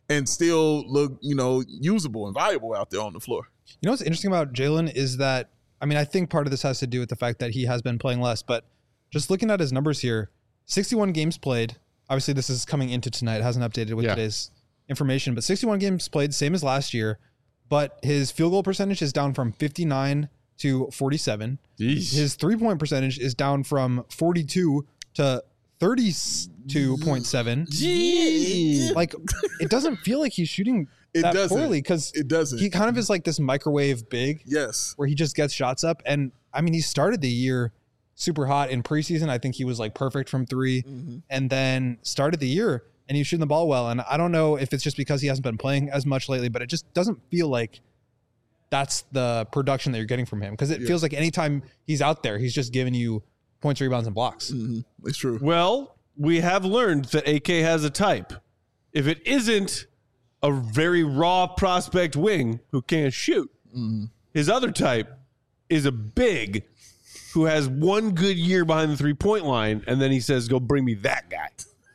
and still look, you know, usable and valuable out there on the floor. You know what's interesting about Jalen is that, I mean, I think part of this has to do with the fact that he has been playing less, but just looking at his numbers here, sixty-one games played. Obviously, this is coming into tonight. It hasn't updated with Yeah. today's information, but sixty-one games played, same as last year, but his field goal percentage is down from fifty-nine to forty-seven. Jeez. His three-point percentage is down from forty-two to thirty-two point seven. Like, it doesn't feel like he's shooting It that doesn't. poorly because It doesn't. he kind of is like this microwave big Yes. where he just gets shots up. And I mean, he started the year super hot in preseason. I think he was like perfect from three, Mm-hmm. and then started the year and he was shooting the ball well. And I don't know if it's just because he hasn't been playing as much lately, but it just doesn't feel like that's the production that you're getting from him. Cause it Yeah. feels like anytime he's out there, he's just giving you points, rebounds, and blocks. Mm-hmm. It's true. Well, we have learned that A K has a type. If it isn't a very raw prospect wing who can't shoot, Mm-hmm. his other type is a big who has one good year behind the three-point line, and then he says, go bring me that guy.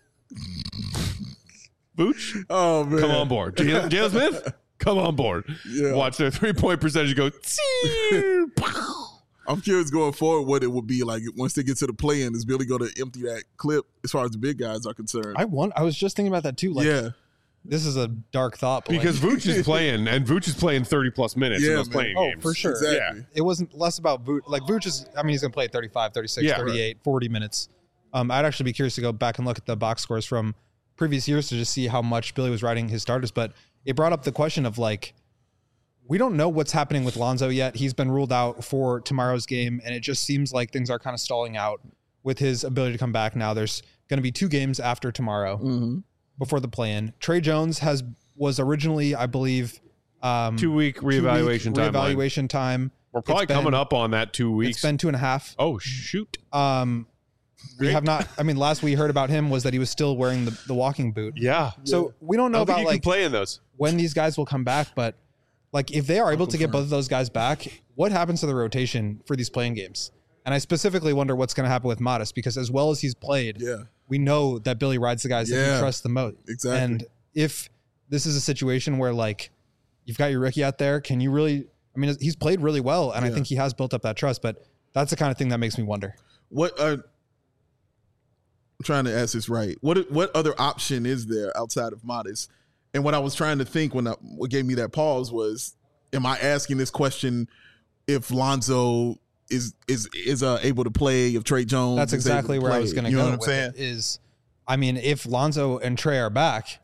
Booch, Oh man. come on board. Jalen Jalen Smith, come on board. Yeah. Watch their three-point percentage go. "Tsing." I'm curious going forward what it would be like once they get to the play-in. Is Billy going to empty that clip as far as the big guys are concerned? I want, I was just thinking about that too. Like, yeah. this is a dark thought, but Because like, Vooch is playing, and Vooch is playing thirty-plus minutes in Yeah, those man. playing Oh, games. for sure. Exactly. it wasn't less about Vooch. Like Vooch is, I mean, he's going to play thirty-five, thirty-six, Yeah, thirty-eight, forty minutes. Um, I'd actually be curious to go back and look at the box scores from previous years to just see how much Billy was riding his starters. But it brought up the question of like, we don't know what's happening with Lonzo yet. He's been ruled out for tomorrow's game, and it just seems like things are kind of stalling out with his ability to come back now. There's going to be two games after tomorrow Mm-hmm. before the play-in. Trey Jones has was originally, I believe, um, Two-week two-week reevaluation timeline. reevaluation time. We're probably It's been- coming up on that two weeks. It's been two and a half. oh, shoot. Um, we Great. have not. I mean, last we heard about him was that he was still wearing the, the walking boot. Yeah. So we don't I know don't think about you like can play in those. when these guys will come back, but like if they are able to get both of those guys back, what happens to the rotation for these playing games? And I specifically wonder what's going to happen with Modest because as well as he's played, Yeah. we know that Billy rides the guys that Yeah. he trusts the most. Exactly. And if this is a situation where like you've got your rookie out there, can you really? I mean, he's played really well, and I Yeah. think he has built up that trust. But that's the kind of thing that makes me wonder. What uh, I'm trying to ask this right. What what other option is there outside of Modest? And what I was trying to think when I, what gave me that pause was, am I asking this question if Lonzo is is is uh, able to play, if Trey Jones That's is able exactly to where I play? was going to You go. know what I'm with saying? it, Is I mean, if Lonzo and Trey are back,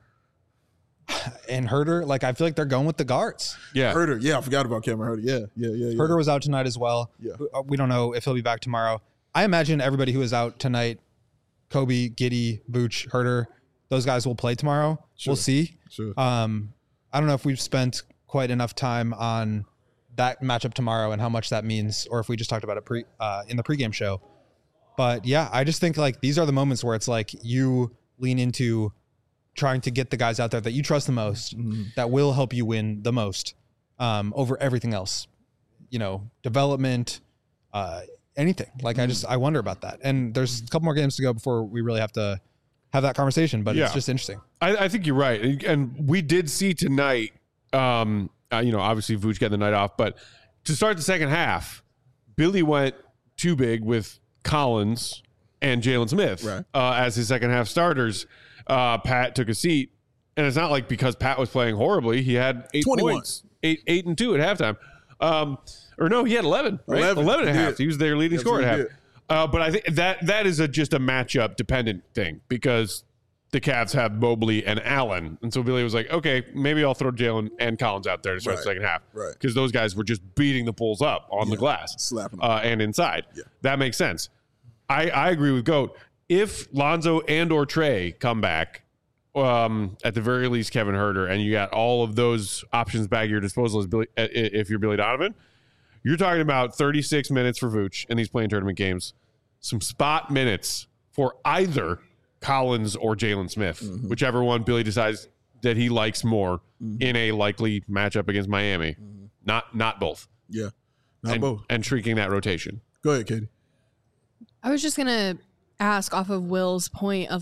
and Herter, like I feel like they're going with the guards. Yeah. Herter, yeah, I forgot about Cameron Herter. Yeah, yeah, yeah, yeah. Herter was out tonight as well. Yeah. We don't know if he'll be back tomorrow. I imagine everybody who is out tonight, Kobe, Giddey, Vooch, Herter, those guys will play tomorrow. Sure. We'll see. Sure. Um, I don't know if we've spent quite enough time on that matchup tomorrow and how much that means, or if we just talked about it pre uh, in the pregame show. But yeah, I just think like these are the moments where it's like you lean into trying to get the guys out there that you trust the most, Mm-hmm. that will help you win the most um, over everything else. You know, development, uh, anything. Like I just I wonder about that. And there's a couple more games to go before we really have to have that conversation. But Yeah. it's just interesting. I, I think you're right. And, and we did see tonight, um, uh, you know, obviously Vooch getting the night off, but to start the second half, Billy went too big with Collins and Jalen Smith Right. uh, as his second half starters. Uh, Pat took a seat, and it's not like because Pat was playing horribly. He had eight twenty-one. points, eight, eight and two at halftime. Um, or no, he had eleven, right? eleven. eleven and a He half. did. He was their leading scorer at half. Absolutely Uh, but I think that that is a, just a matchup dependent thing because the Cavs have Mobley and Allen. And so Billy was like, okay, maybe I'll throw Jalen and Collins out there to start the Right. second half. Right. Because those guys were just beating the Bulls up on the glass. slapping them. Uh, and inside. Yeah. That makes sense. I, I agree with Goat. If Lonzo and or Trey come back, um, at the very least Kevin Herter, and you got all of those options back at your disposal as Billy, uh, if you're Billy Donovan, you're talking about thirty-six minutes for Vooch, and he's playing tournament games. Some spot minutes for either Collins or Jalen Smith, Mm-hmm. whichever one Billy decides that he likes more in a likely matchup against Miami. Mm-hmm. Not not both. Yeah. Not and, both. and shrinking that rotation. Go ahead, Katie. I was just gonna ask off of Will's point of like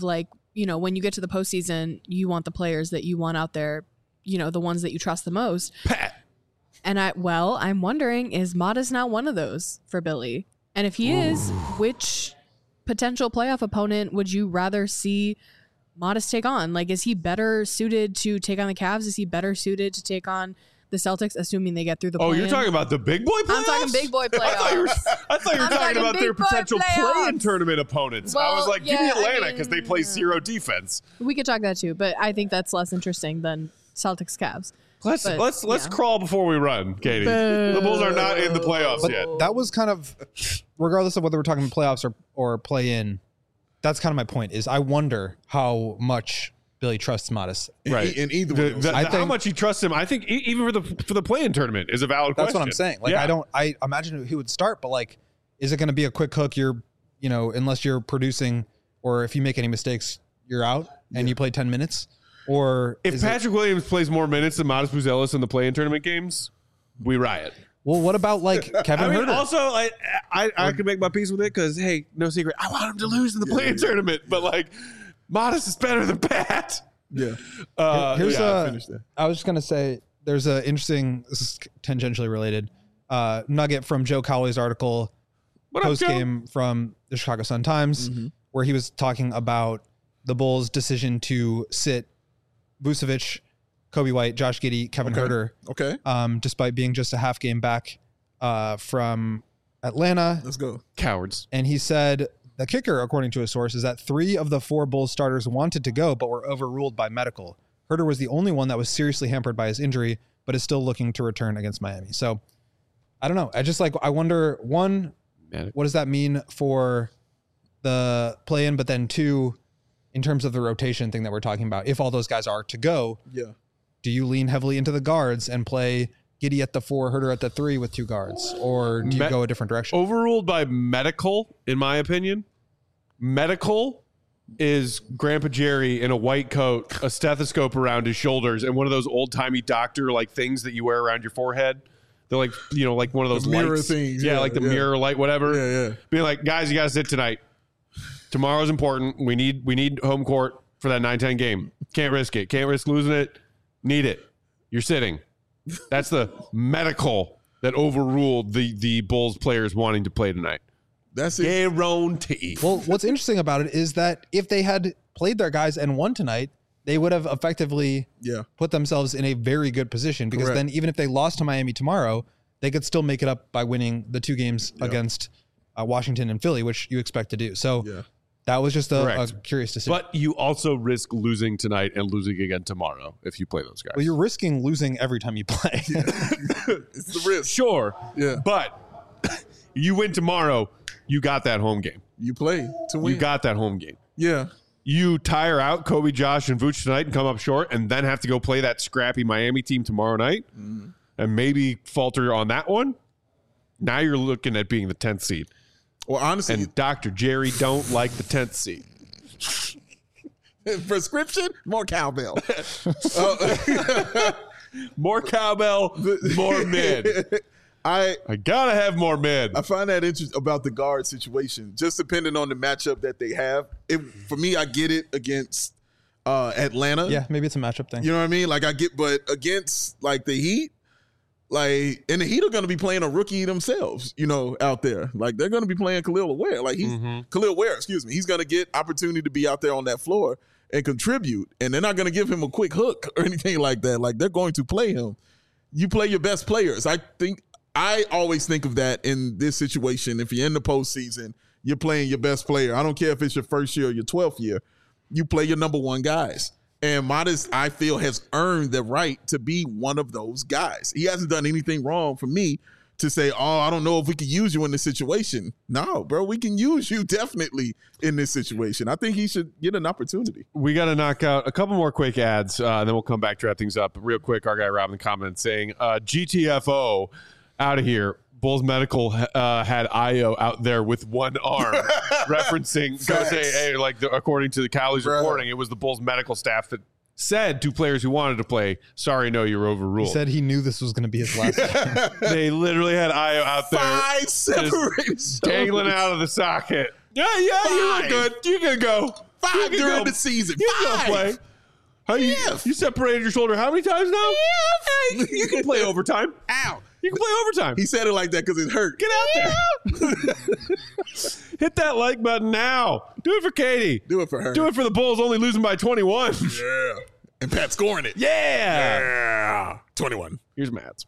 you know, when you get to the postseason, you want the players that you want out there, you know, the ones that you trust the most. Pat. And I, well, I'm wondering, is Modest now one of those for Billy? And if he is, which potential playoff opponent would you rather see Modest take on? Like, is he better suited to take on the Cavs? Is he better suited to take on the Celtics, assuming they get through the Oh, play-in? you're talking about the big boy playoffs? I'm talking big boy playoffs. I thought you were, I thought you were I'm talking, talking about their big boy potential playoffs. play-in tournament opponents. I was Well, like, give me yeah, I Atlanta because they play mean, zero defense. We could talk that too, but I think that's less interesting than Celtics Cavs. Let's But, let's let's yeah. crawl before we run, Katie. The Bulls are not in the playoffs But yet. that was kind of, regardless of whether we're talking playoffs or, or play in, that's kind of my point is I wonder how much Billy trusts Modest. In, Right. in either The- one of those. the- I how think- much he trusts him, I think e- even for the for the play-in tournament is a valid That's question. what I'm saying. Like, Yeah. I don't, I imagine he would start, but like, is it going to be a quick hook? You're, you know, unless you're producing or if you make any mistakes, you're out and you play ten minutes. Or If is it- Patrick Williams plays more minutes than Modest Buzelis in the play-in tournament games, we riot. well, what about like Kevin I mean, Herter? also, I I, I can make my peace with it because, hey, no secret, I want him to lose in the play-in tournament. But like, Modest is better than Pat. Yeah. Uh, Here's yeah. a, finish that. I was just gonna say there's a interesting, this is tangentially related, uh, nugget from Joe Cowley's article What up, post Joe? game from the Chicago Sun Times, where he was talking about the Bulls' decision to sit Vucevic, Kobe White, Josh Giddey, Kevin Okay. Herter, Okay. um, despite being just a half game back uh, from Atlanta. Let's go. Cowards. And he said the kicker, according to a source, is that three of the four Bulls starters wanted to go, but were overruled by medical. Herter was the only one that was seriously hampered by his injury, but is still looking to return against Miami. So I don't know. I just like, I wonder, one, Man, what does that mean for the play-in? But then two, in terms of the rotation thing that we're talking about, if all those guys are to go, Yeah. do you lean heavily into the guards and play Giddey at the four, Herter at the three with two guards? Or do you Me- go a different direction? overruled by medical, in my opinion. Medical is Grandpa Jerry in a white coat, a stethoscope around his shoulders, and one of those old-timey doctor like things that you wear around your forehead. They're like, you know, like one of those The mirror lights. things, Yeah, yeah, like the yeah. mirror light, whatever. Yeah, yeah. Being like, guys, you got to sit tonight. Tomorrow's important. We need we need home court for that nine ten game. Can't risk it. Can't risk losing it. Need it. You're sitting. That's the medical that overruled the the Bulls players wanting to play tonight. That's it. Guarantee. Well, what's interesting about it is that if they had played their guys and won tonight, they would have effectively Yeah. put themselves in a very good position because Correct. then even if they lost to Miami tomorrow, they could still make it up by winning the two games against uh, Washington and Philly, which you expect to do. So Yeah. that was just a, a Correct. curious decision. But you also risk losing tonight and losing again tomorrow if you play those guys. well, you're risking losing every time you play. It's the risk. sure. Yeah. But you win tomorrow, you got that home game. You play to win. You got that home game. Yeah. You tire out Kobe, Josh, and Vooch tonight and come up short and then have to go play that scrappy Miami team tomorrow night and maybe falter on that one. Now you're looking at being the tenth seed. Well, honestly, And Doctor Jerry don't like the tenth seed. prescription, more cowbell. Uh, More cowbell, more mid. I I gotta have more mid. I find that interesting about the guard situation. Just depending on the matchup that they have. It, for me, I get it against uh, Atlanta. yeah, maybe it's a matchup thing. You know what I mean? Like I get, but against like the Heat, like and the Heat are going to be playing a rookie themselves. You know, out there, like they're going to be playing Khalil Ware. Like he's Khalil Ware, excuse me. He's going to get opportunity to be out there on that floor and contribute. And they're not going to give him a quick hook or anything like that. Like they're going to play him. You play your best players. I think I always think of that in this situation. If you're in the postseason, you're playing your best player. I don't care if it's your first year or your twelfth year. You play your number one guys. And Modest, I feel, has earned the right to be one of those guys. He hasn't done anything wrong for me to say, oh, I don't know if we can use you in this situation. No, bro, we can use you definitely in this situation. I think he should get an opportunity. We got to knock out a couple more quick ads, uh, and then we'll come back to wrap things up. Real quick, our guy Rob in the comments saying, uh, G T F O out of here. Bulls Medical uh, had Io out there with one arm, referencing, go say, hey, like the, according to the Cowley's Right. reporting, it was the Bulls Medical staff that said to players who wanted to play, sorry, no, you're overruled. He said he knew this was going to be his last game. They literally had Io out there Five separated dangling shoulders. out of the socket. Yeah, yeah, you Five. look good. You can go. Five You can during go- the season. You can Five. go play. How you, Yes. you separated your shoulder how many times now? Hey, you can play overtime. Ow. You can play overtime. He said it like that because it hurt. Get out there. Hit that like button now. Do it for Katie. Do it for her. Do it for the Bulls only losing by twenty-one. Yeah. And Pat scoring it. Yeah. Yeah. twenty-one. Here's Matt's.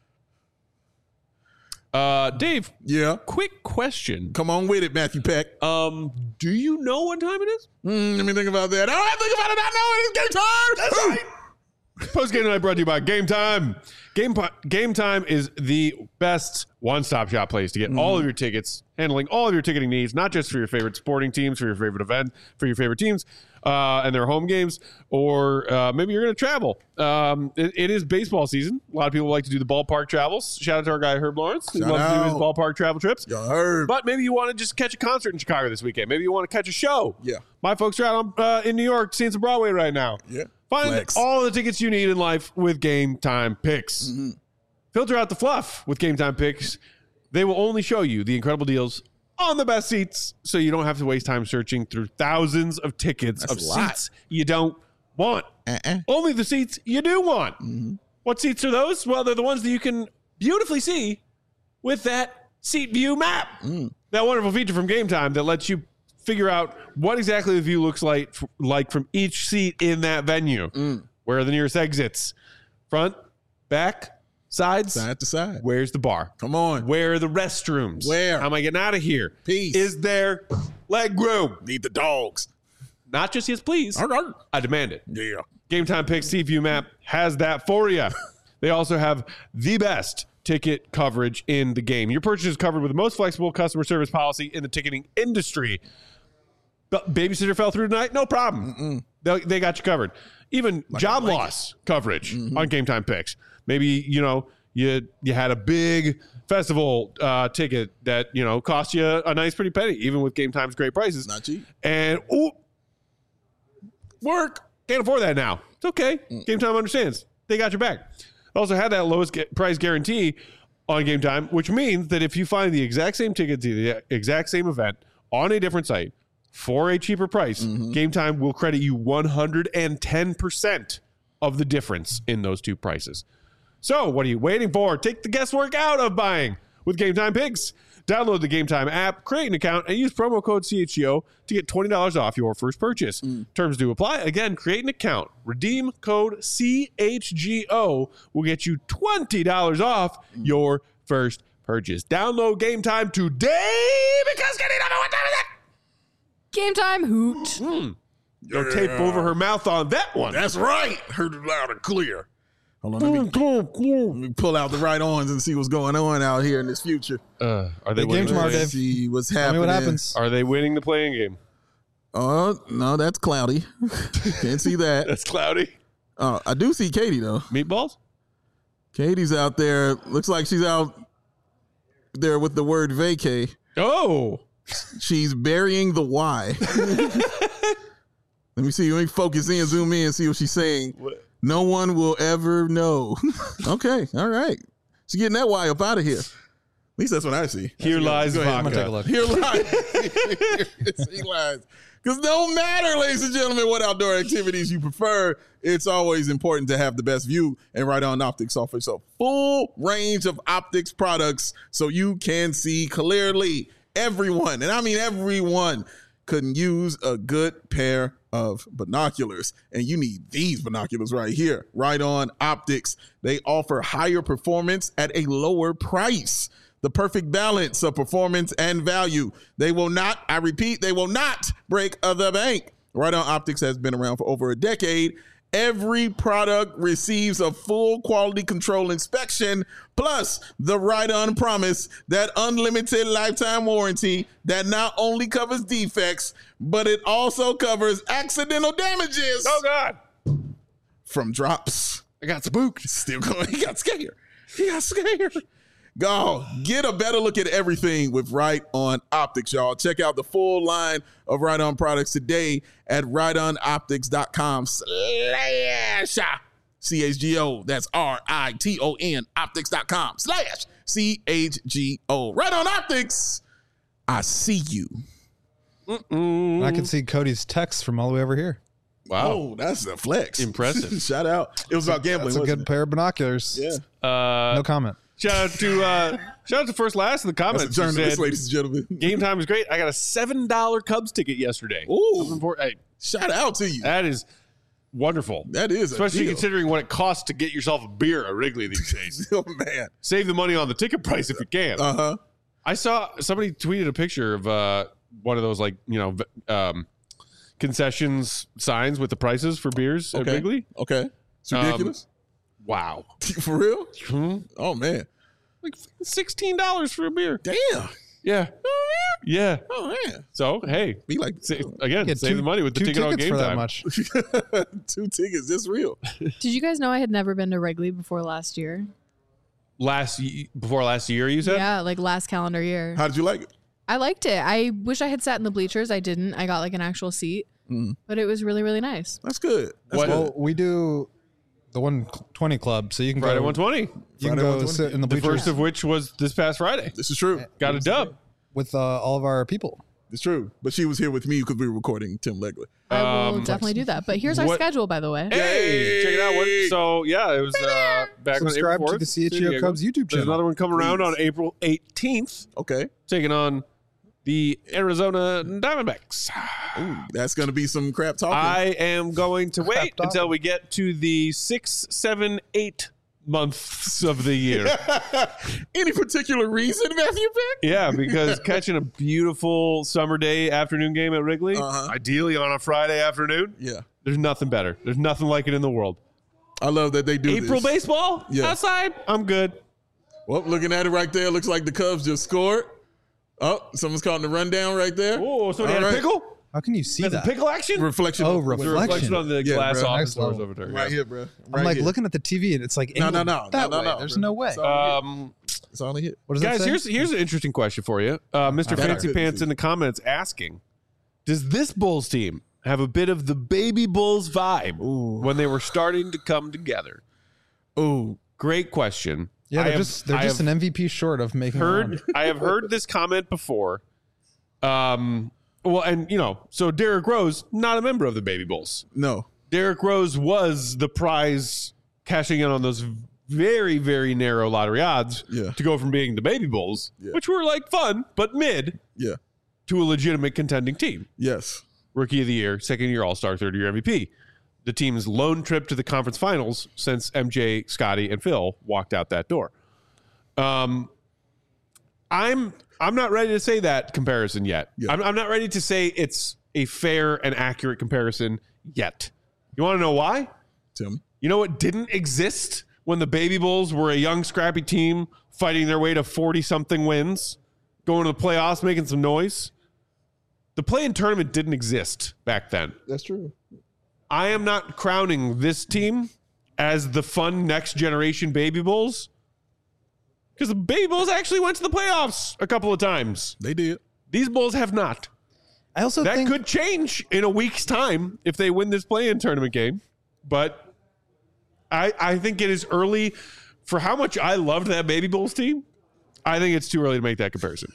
Uh, Dave, Yeah. quick question. Come on with it, Matthew Peck. Um, do you know what time it is? Mm, let me think about that. All right, think about it. I know it. It's game time. That's right. Post game tonight brought to you by Game Time. Game po- Game Time is the best one-stop shop place to get all of your tickets, handling all of your ticketing needs, not just for your favorite sporting teams, for your favorite event, for your favorite teams uh, and their home games, or uh, maybe you're going to travel. Um, it, it is baseball season. A lot of people like to do the ballpark travels. Shout out to our guy Herb Lawrence. He Shout loves to do his out. ballpark travel trips. Y'all heard. But maybe you want to just catch a concert in Chicago this weekend. Maybe you want to catch a show. Yeah. My folks are out on, uh, in New York seeing some Broadway right now. Yeah. Find Flex. all the tickets you need in life with Game Time Picks. Mm-hmm. Filter out the fluff with Game Time Picks. They will only show you the incredible deals on the best seats, so you don't have to waste time searching through thousands of tickets That's of a lot. seats you don't want. Uh-uh. Only the seats you do want. Mm-hmm. What seats are those? Well, they're the ones that you can beautifully see with that Seat View map. Mm. That wonderful feature from Game Time that lets you figure out what exactly the view looks like, like from each seat in that venue. Mm. Where are the nearest exits? Front, back, sides? Side to side. Where's the bar? Come on. Where are the restrooms? Where? How am I getting out of here? Peace. Is there leg room? Need the dogs. Not just yes, please. Arr, arr. I demand it. Yeah. Game Time Picks Seat View Map has that for you. They also have the best ticket coverage in the game. Your purchase is covered with the most flexible customer service policy in the ticketing industry. But babysitter fell through tonight? No problem. They, they got you covered. Even job like loss coverage on Game Time Picks. Maybe, you know, you you had a big festival uh, ticket that, you know, cost you a nice pretty penny, even with Game Time's great prices. Not cheap. And, ooh, work. Can't afford that now. It's okay. Game Time understands. They got your back. Also had that lowest gu- price guarantee on Game Time, which means that if you find the exact same ticket to the exact same event on a different site for a cheaper price, Game Time will credit you one hundred ten percent of the difference in those two prices. So what are you waiting for? Take the guesswork out of buying with Game Time Picks. Download the Game Time app, create an account, and use promo code C H G O to get twenty dollars off your first purchase. Terms do apply. Again, create an account. Redeem code C H G O will get you twenty dollars off your first purchase. Download Game Time today because getting number what time is it? Game time hoot. No tape over her mouth on that one. That's right. Heard it loud and clear. Hold on. Let me, let me pull out the right arms and see what's going on out here in this future. Uh, are they Big game winning? tomorrow, the Dave. playing- See what's Tell me happening. what happens. Are they winning the playing game? Oh, no, that's cloudy. Can't see that. That's cloudy. Uh, I do see Katie, though. Meatballs? Katie's out there. Looks like she's out there with the word vacay. Oh. She's burying the Y. Let me see. Let me focus in, zoom in, see what she's saying. What? No one will ever know. Okay. All right. She's getting that Y up out of here. At least that's what I see. Here lies Go ahead. I'm gonna take a vodka. look. Here lies. He lies. Because no matter, ladies and gentlemen, what outdoor activities you prefer, it's always important to have the best view. And Right On Optics offers a full range of optics products so you can see clearly. Everyone, and I mean everyone, couldn't use a good pair of binoculars. And you need these binoculars right here. Right On Optics. They offer higher performance at a lower price. The perfect balance of performance and value. They will not, I repeat, they will not break the bank. Right On Optics has been around for over a decade. Every product receives a full quality control inspection, plus the Right On promise, that unlimited lifetime warranty that not only covers defects, but it also covers accidental damages Oh, God. from drops. I got spooked. Still going. He got scared. He got scared. Go get a better look at everything with Right On Optics, y'all. Check out the full line of Right On products today at right on optics dot com slash C H G O. That's R I T O N optics dot com slash C H G O. Right On Optics. I see you. Mm-mm. I can see Cody's text from all the way over here. Wow. Oh, that's a flex. Impressive. Shout out. It was about gambling. That's a wasn't good it? pair of binoculars. Yeah. Uh, No comment. Shout out to uh, shout out to First Last in the That's comments. a who journalist, said, ladies and gentlemen. game time is great. I got a seven dollar Cubs ticket yesterday. Ooh. Hey, Shout out to you. that is wonderful. That is a Especially deal. considering what it costs to get yourself a beer at Wrigley these days. Oh, man. Save the money on the ticket price if you can. Uh huh. I saw somebody tweeted a picture of uh, one of those like you know v- um, concessions signs with the prices for beers at Okay. Wrigley. Okay. It's Um, ridiculous. Wow, For real? Hmm? Oh, man. like sixteen dollars for a beer. Damn. Yeah, yeah. Oh, man. So hey, Be like, sa- again, Get save two- the money with the two ticket on tickets game for time. that much. two tickets. That's real. Did you guys know I had never been to Wrigley before last year? Last y- before last year, you said. Yeah, like last calendar year. How did you like it? I liked it. I wish I had sat in the bleachers. I didn't. I got like an actual seat, Mm. but it was really, really nice. That's good. That's What- good. Well, we do the one twenty club, so you can Friday go. one twenty. You can Friday go one twenty. sit in the The bleachers first of which was this past Friday. This is true. Got a dub. with uh, all of our people. It's true. But she was here with me because we were recording Tim Legler. I will Um, definitely do that. But here's our what- schedule, by the way. Hey, check it out. What, so yeah, it was uh, back on April Subscribe to fourth. the C H San E O Diego. Cubs YouTube There's channel. another one coming around Please. on April eighteenth, Okay. taking on the Arizona Diamondbacks. Ooh, that's going to be some crap talking. I am going to wait Crap until we get to the six, seven, eight months of the year. Any particular reason, Matthew Beck? Yeah, because catching a beautiful summer day afternoon game at Wrigley, Uh-huh. ideally on a Friday afternoon, Yeah. there's nothing better. There's nothing like it in the world. I love that they do April this. baseball Yeah. outside, I'm good. Well, looking at it right there, looks like the Cubs just scored. Oh, someone's calling the rundown right there. Oh, so they All had a right. pickle? How can you see There's a that? pickle action? Reflection. Oh, of- The reflection. reflection on the Yeah, glass bro. office Next doors level. over there. Right yeah. here, bro. I'm Right like here. looking at the T V and it's like No, angled no, no, that no, no, way. no, There's bro. no way. It's all- Um, It's only hit. What does that guys, say? here's here's an interesting question for you. Uh, Mister Okay. Fancy Pants in the comments asking, does this Bulls team have a bit of the baby Bulls vibe Ooh. when they were starting to come together? Ooh. Great question. yeah, I they're have- just they're I just have an M V P short of making. heard it I have heard this comment before. Um, well, and you know, so Derrick Rose, not a member of the Baby Bulls. No. Derrick Rose was the prize cashing in on those very, very narrow lottery odds Yeah. to go from being the Baby Bulls, Yeah. which were like fun but mid, Yeah. to a legitimate contending team. Yes. Rookie of the year, second year All Star, third year M V P. The team's lone trip to the conference finals since M J, Scotty, and Phil walked out that door. Um, I'm I'm not ready to say that comparison yet. Yeah. I'm, I'm not ready to say it's a fair and accurate comparison yet. You want to know why? Tell me. You know what didn't exist when the Baby Bulls were a young, scrappy team fighting their way to forty-something wins, going to the playoffs, making some noise? The play-in tournament didn't exist back then. That's true. I am not crowning this team as the fun next generation Baby Bulls because the Baby Bulls actually went to the playoffs a couple of times. They did. These Bulls have not. I also That think could change in a week's time if they win this play-in tournament game. But I, I think it is early for how much I loved that Baby Bulls team. I think it's too early to make that comparison.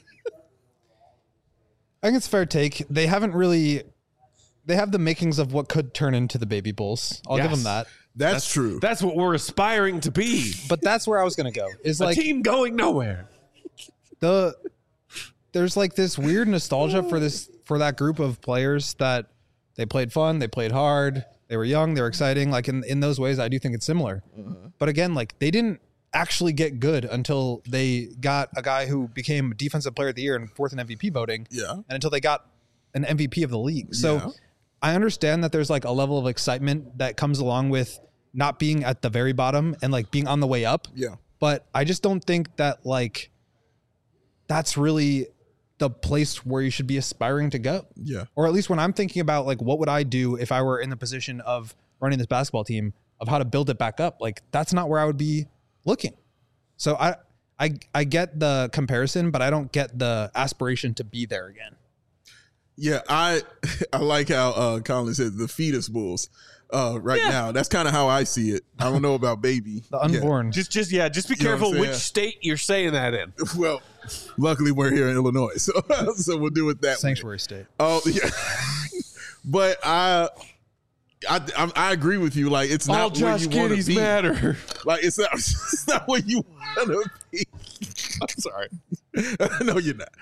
I think it's a fair take. They haven't really. They have the makings of what could turn into the Baby Bulls. I'll give Yes. them that. That's, true. That's what we're aspiring to be. But that's where I was going to go. Is A like team going nowhere. the there's like this weird nostalgia for this for that group of players that they played fun, they played hard, they were young, they were exciting. Like in in those ways, I do think it's similar. But again, like they didn't actually get good until they got a guy who became Defensive Player of the Year and fourth in M V P voting. Yeah. And until they got an M V P of the league. So Yeah. I understand that there's like a level of excitement that comes along with not being at the very bottom and like being on the way up. Yeah. But I just don't think that like that's really the place where you should be aspiring to go. Yeah. Or at least when I'm thinking about like what would I do if I were in the position of running this basketball team, of how to build it back up, like that's not where I would be looking. So I I I get the comparison, but I don't get the aspiration to be there again. Yeah, I I like how uh, Colin said the fetus bulls. uh, right Yeah. now. That's kind of how I see it. I don't know about baby. The Yeah. unborn. Just, just yeah, just be You know what careful I'm which saying? state you're saying that in. Well, luckily we're here in Illinois, so so we'll do it that way. Sanctuary state. Oh yeah, but I, I I I agree with you. Like it's All not where Josh you want to Giddey's be. matter. Like it's not it's not where you want to be. I'm sorry. No, you're not.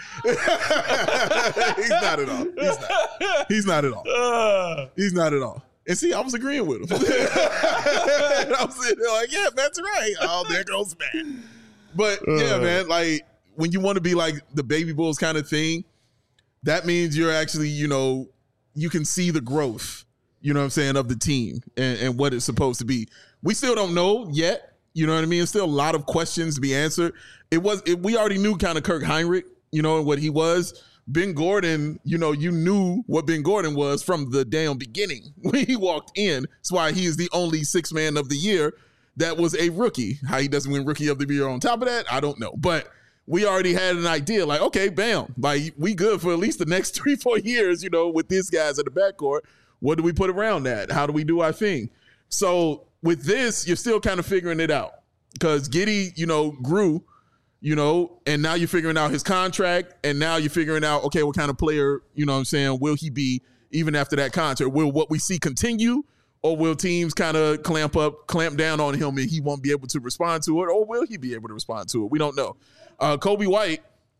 He's not at all. He's not. He's not at all. Uh, He's not at all. And see, I was agreeing with him. I was sitting there like, yeah, that's right. Oh, there goes Matt. But yeah, Uh. man, like when you want to be like the baby Bulls kind of thing, that means you're actually, you know, you can see the growth, you know what I'm saying, of the team and, and what it's supposed to be. We still don't know yet. You know what I mean? There's still a lot of questions to be answered. It was it, we already knew kind of Kirk Heinrich, you know, and what he was. Ben Gordon, you know, you knew what Ben Gordon was from the damn beginning when he walked in. That's why he is the only six man of the year that was a rookie. How he doesn't win rookie of the year on top of that, I don't know. But we already had an idea like, okay, bam, like we good for at least the next three, four years, you know, with these guys at the backcourt. What do we put around that? How do we do our thing? So with this, you're still kind of figuring it out because Giddey, you know, grew, you know, and now you're figuring out his contract, and now you're figuring out, okay, what kind of player, you know what I'm saying, will he be even after that contract? Will what we see continue, or will teams kind of clamp up, clamp down on him and he won't be able to respond to it, or will he be able to respond to it? We don't know. Uh, Coby White,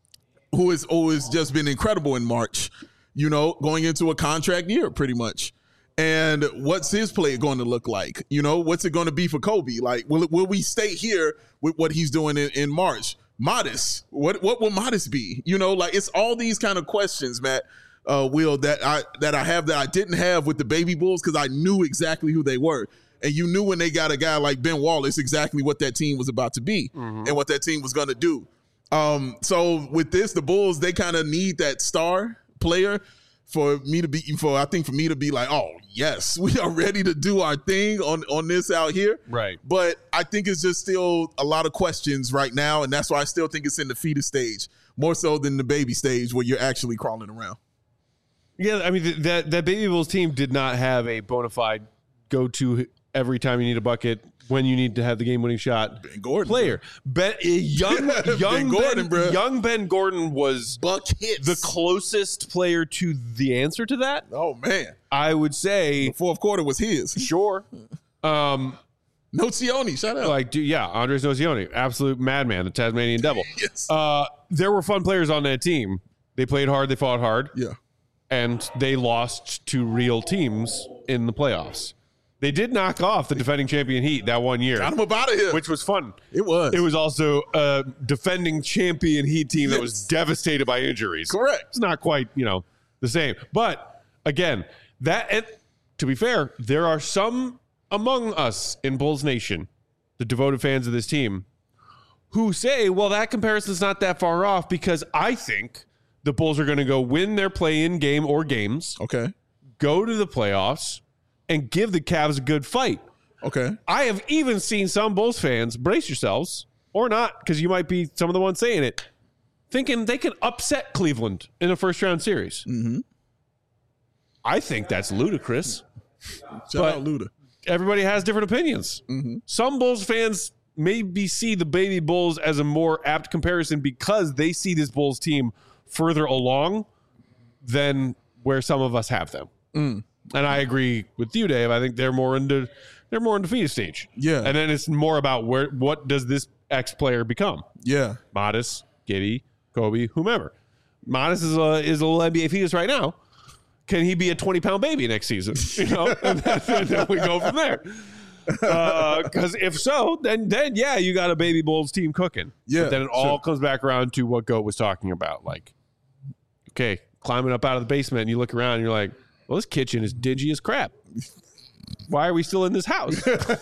who has always just been incredible in March, you know, going into a contract year pretty much. And what's his play going to look like? You know, what's it going to be for Coby? Like, will it, will we stay here with what he's doing in, in March? Modest. What what will Modest be? You know, like it's all these kind of questions, Matt, uh, Will, that I that I have that I didn't have with the Baby Bulls because I knew exactly who they were. And you knew when they got a guy like Ben Wallace exactly what that team was about to be mm-hmm. and what that team was going to do. Um, so with this, the Bulls, they kind of need that star player for me to be, for I think for me to be like, oh, yes, we are ready to do our thing on, on this out here. Right. But I think it's just still a lot of questions right now, and that's why I still think it's in the fetus stage, more so than the baby stage where you're actually crawling around. Yeah, I mean, th- that, that Baby Bulls team did not have a bona fide go-to every time you need a bucket, when you need to have the game-winning shot Ben Gordon, player. Ben, uh, young, young, Ben Gordon, ben, bro. young Ben Gordon was Buck hits. the closest player to the answer to that. Oh, man. I would say, The fourth quarter was his. sure. Um, Nocioni, shout out. like, dude, yeah, Andres Nocioni, absolute madman, the Tasmanian Devil. Yes. Uh, there were fun players on that team. They played hard, they fought hard, Yeah. and they lost to real teams in the playoffs. They did knock off the defending champion Heat that one year, Got him up out of here. which was fun. It was. It was also a defending champion Heat team that was Yes. devastated by injuries. Correct. It's not quite, you know, the same. But again, that and to be fair, there are some among us in Bulls Nation, the devoted fans of this team, who say, well, that comparison's not that far off because I think the Bulls are going to go win their play-in game or games, Okay. go to the playoffs, and give the Cavs a good fight. Okay. I have even seen some Bulls fans, brace yourselves, or not, because you might be some of the ones saying it, thinking they can upset Cleveland in a first-round series. Mm-hmm. I think that's ludicrous. Shout But- out Luda. Everybody has different opinions. Mm-hmm. Some Bulls fans maybe see the Baby Bulls as a more apt comparison because they see this Bulls team further along than where some of us have them. Mm. And I agree with you, Dave. I think they're more into they're more into fetus stage. Yeah. And then it's more about where what does this X player become? Yeah. Modest, Giddey, Coby, whomever. Modest is a is a little N B A fetus right now. Can he be a twenty pound baby next season? You know, and then, and then we go from there. Because uh, if so, then then yeah, you got a Baby Bulls team cooking. Yeah, But then it all sure. comes back around to what Goat was talking about. Like, okay, climbing up out of the basement, and you look around, and you're like, well, this kitchen is dingy as crap. Why are we still in this house?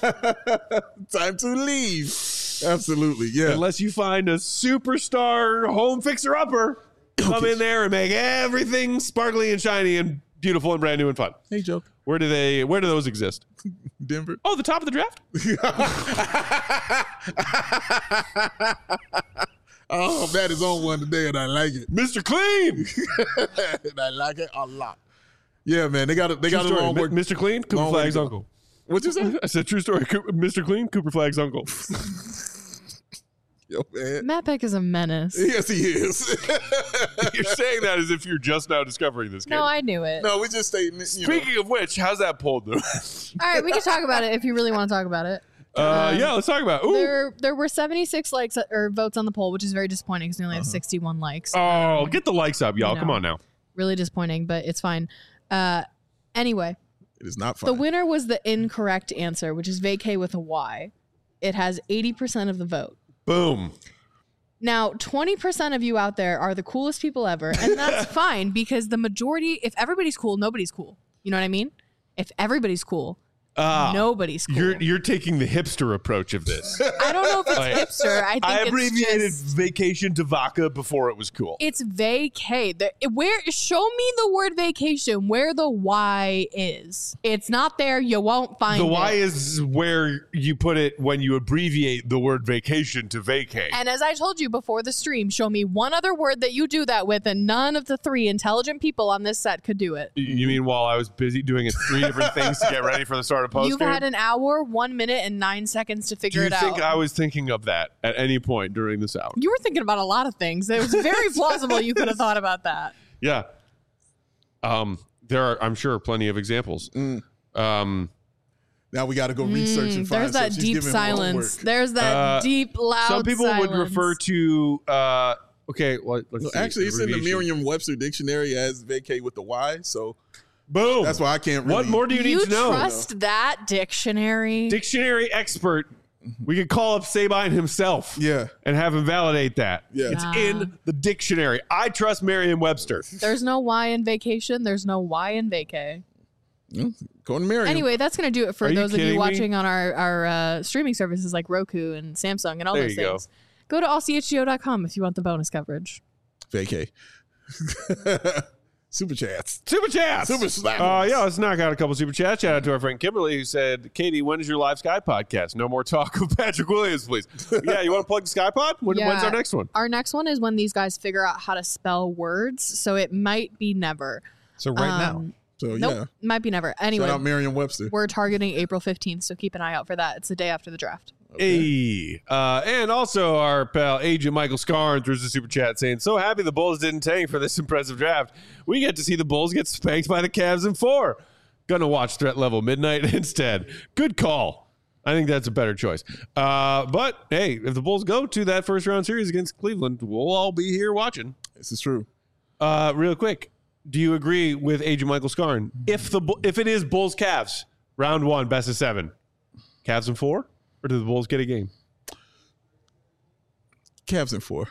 Time to leave. Absolutely. Yeah. Unless you find a superstar home fixer-upper, come in there and make everything sparkly and shiny and beautiful and brand new and fun. Hey, Joe. Where do they? Where do those exist? Denver. Oh, the top of the draft. Oh, Matt is on one today, and I like it. Mister Clean. And I like it a lot. Yeah, man. They got it. They True got a story. long Mi- work. Mister Clean, Cooper long way to Flag's go. uncle. What'd you say? I said true story. Cooper, Mister Clean, Cooper Flagg's uncle. Yo, man. Matt Peck is a menace. Yes, he is. You're saying that as if you're just now discovering this game. No, I knew it. No, we just stating it. You Speaking of which, how's that poll doing? All right, we can talk about it if you really want to talk about it. uh, Um, yeah, let's talk about it. Ooh. There, there were seventy-six likes or votes on the poll, which is very disappointing because we only have Uh-huh. sixty-one likes. Oh, get the likes up, y'all. No. Come on now. Really disappointing, but it's fine. Uh, anyway, It is not the fun. winner was the incorrect answer, which is vacay with a Y. It has eighty percent of the vote. Boom. Now, twenty percent of you out there are the coolest people ever, and that's fine because the majority, if everybody's cool, nobody's cool. You know what I mean? If everybody's cool, Ah, nobody's cool. You're you're taking the hipster approach of this. I don't know if it's Like, hipster. I think I it's abbreviated just, vacation to vodka before it was cool. it's vacay. The, where show me the word vacation where the Y is. It's not there. You won't find The it. Y is where you put it when you abbreviate the word vacation to vacate. And as I told you before the stream, show me one other word that you do that with, and none of the three intelligent people on this set could do it. You mean while I was busy doing three different things to get ready for the start of post You've game? had an hour, one minute, and nine seconds to Do figure you it think out. I was thinking of that at any point during this hour? You were thinking about a lot of things. It was very plausible you could have thought about that. Yeah. Um, there are, I'm sure, plenty of examples. Mm. Um, Now we got to go research and Mm, find. there's that so she's deep giving silence. homework. There's that Uh, deep, loud some people silence. would refer to. Uh, okay, well, let's No, see. actually, it's in the Abbreviation. Merriam-Webster dictionary as vacate with the Y. So Boom. that's why I can't. Really, What more do you, You need to know? trust that dictionary? Dictionary expert. We could call up Sabine himself. Yeah. And have him validate that. Yeah. It's Nah. in the dictionary. I trust Merriam-Webster. There's no Y in vacation. There's no Y in vacay. According to Merriam. Anyway, that's going to do it for Are you those of kidding you me? watching on our, our uh, streaming services like Roku and Samsung and all There those you go. things. Go to all c h g o dot com if you want the bonus coverage. vacay. Super chats. Super chats. Super slappers. Uh, yeah, let's knock out a couple super chats. Shout out to our friend Kimberly who said, Katie, when is your live Sky podcast? No more talk of Patrick Williams, please. Yeah, you want to plug the Sky Pod? When, Yeah. When's our next one? Our next one is when these guys figure out how to spell words. So it might be never. So right now, Um, So Nope, might be never. yeah. Anyway, Shout out Merriam-Webster. we're targeting April fifteenth, so keep an eye out for that. It's the day after the draft. Hey. Uh, and also our pal Agent Michael Scarn through the super chat saying, so happy the Bulls didn't tank for this impressive draft. We get to see the Bulls get spanked by the Cavs in four. Gonna watch Threat Level Midnight instead. Good call. I think that's a better choice. Uh, but hey, if the Bulls go to that first round series against Cleveland, we'll all be here watching. This is true. Uh, real quick, do you agree with Agent Michael Scarn? If the Bu- if it is Bulls Cavs round one, best of seven, Cavs in four, or do the Bulls get a game? Cavs in four.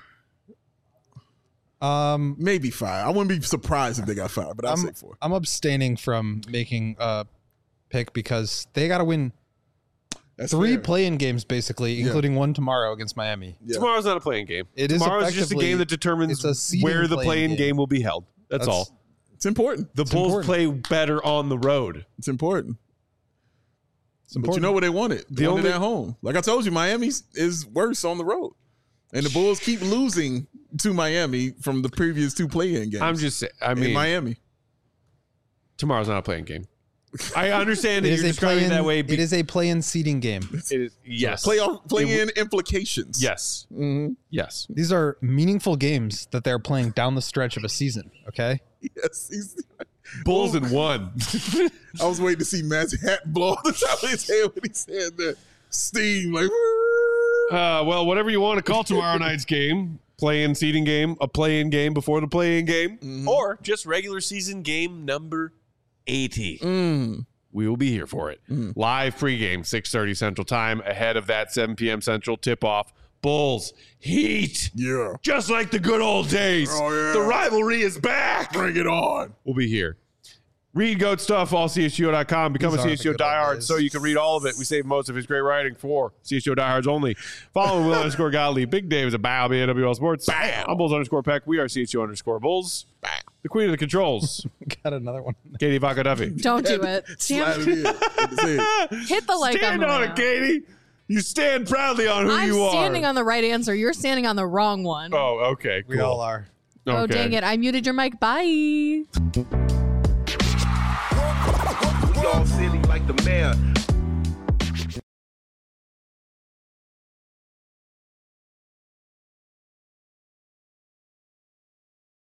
um, Maybe five. I wouldn't be surprised if they got five, but I'll I'm, say four. I'm abstaining from making a pick because they got to win That's three fair. play-in games, basically, Yeah. including one tomorrow against Miami. Yeah. Tomorrow's not a playing game. It is Tomorrow's just a effectively- game that determines it's a seeding where the play-in playing game. game. will be held. That's, That's- all. It's important. The it's Bulls important. play better on the road. It's important. It's But you important. know where they want it. They The want it only- at home. Like I told you, Miami is worse on the road. And the Bulls keep losing to Miami from the previous two play-in games. I'm just saying. I in mean, Miami. tomorrow's not a playing game. I understand that It you're is a describing it play-in. that way. It is a play-in seeding game. It is, yes. Playoff It play-in w- implications. Yes. Mhm. Yes. These are meaningful games that they're playing down the stretch of a season. Okay. Yes. He's, Bulls in one. I was waiting to see Matt's hat blow off the top of his head when he said that. Steam, like. Uh, well, whatever you want to call tomorrow night's game, play-in seeding game, a play-in game before the play-in game, Mhm. or just regular season game number eighty. Mm. We will be here for it. Mm. Live pregame, six thirty Central Time, ahead of that seven p.m. Central tip-off. Bulls, Heat, Yeah. just like the good old days. Oh, yeah. The rivalry is back. Bring it on. We'll be here. Read Goat Stuff, all C H G O dot com. Become These a are C H G O the good old diehard days. so you can read all of it. We save most of his great writing for C H G O diehards only. Follow Will underscore Gottlieb. Big Dave is a bow, B A W L Sports. Bam. I'm Bulls underscore Peck. We are C H G O underscore Bulls. The queen of the controls, Got another one. Katie Vaca Duffy. Don't do it. Slide Stand, it in. That's it. hit the like Stand on, the on video. it, Katie. You stand proudly on who I'm you are. standing on the right answer. You're standing on the wrong one. Oh, okay. We cool. all are. Oh, Okay. dang it. I muted your mic. Bye. We all silly like the mayor.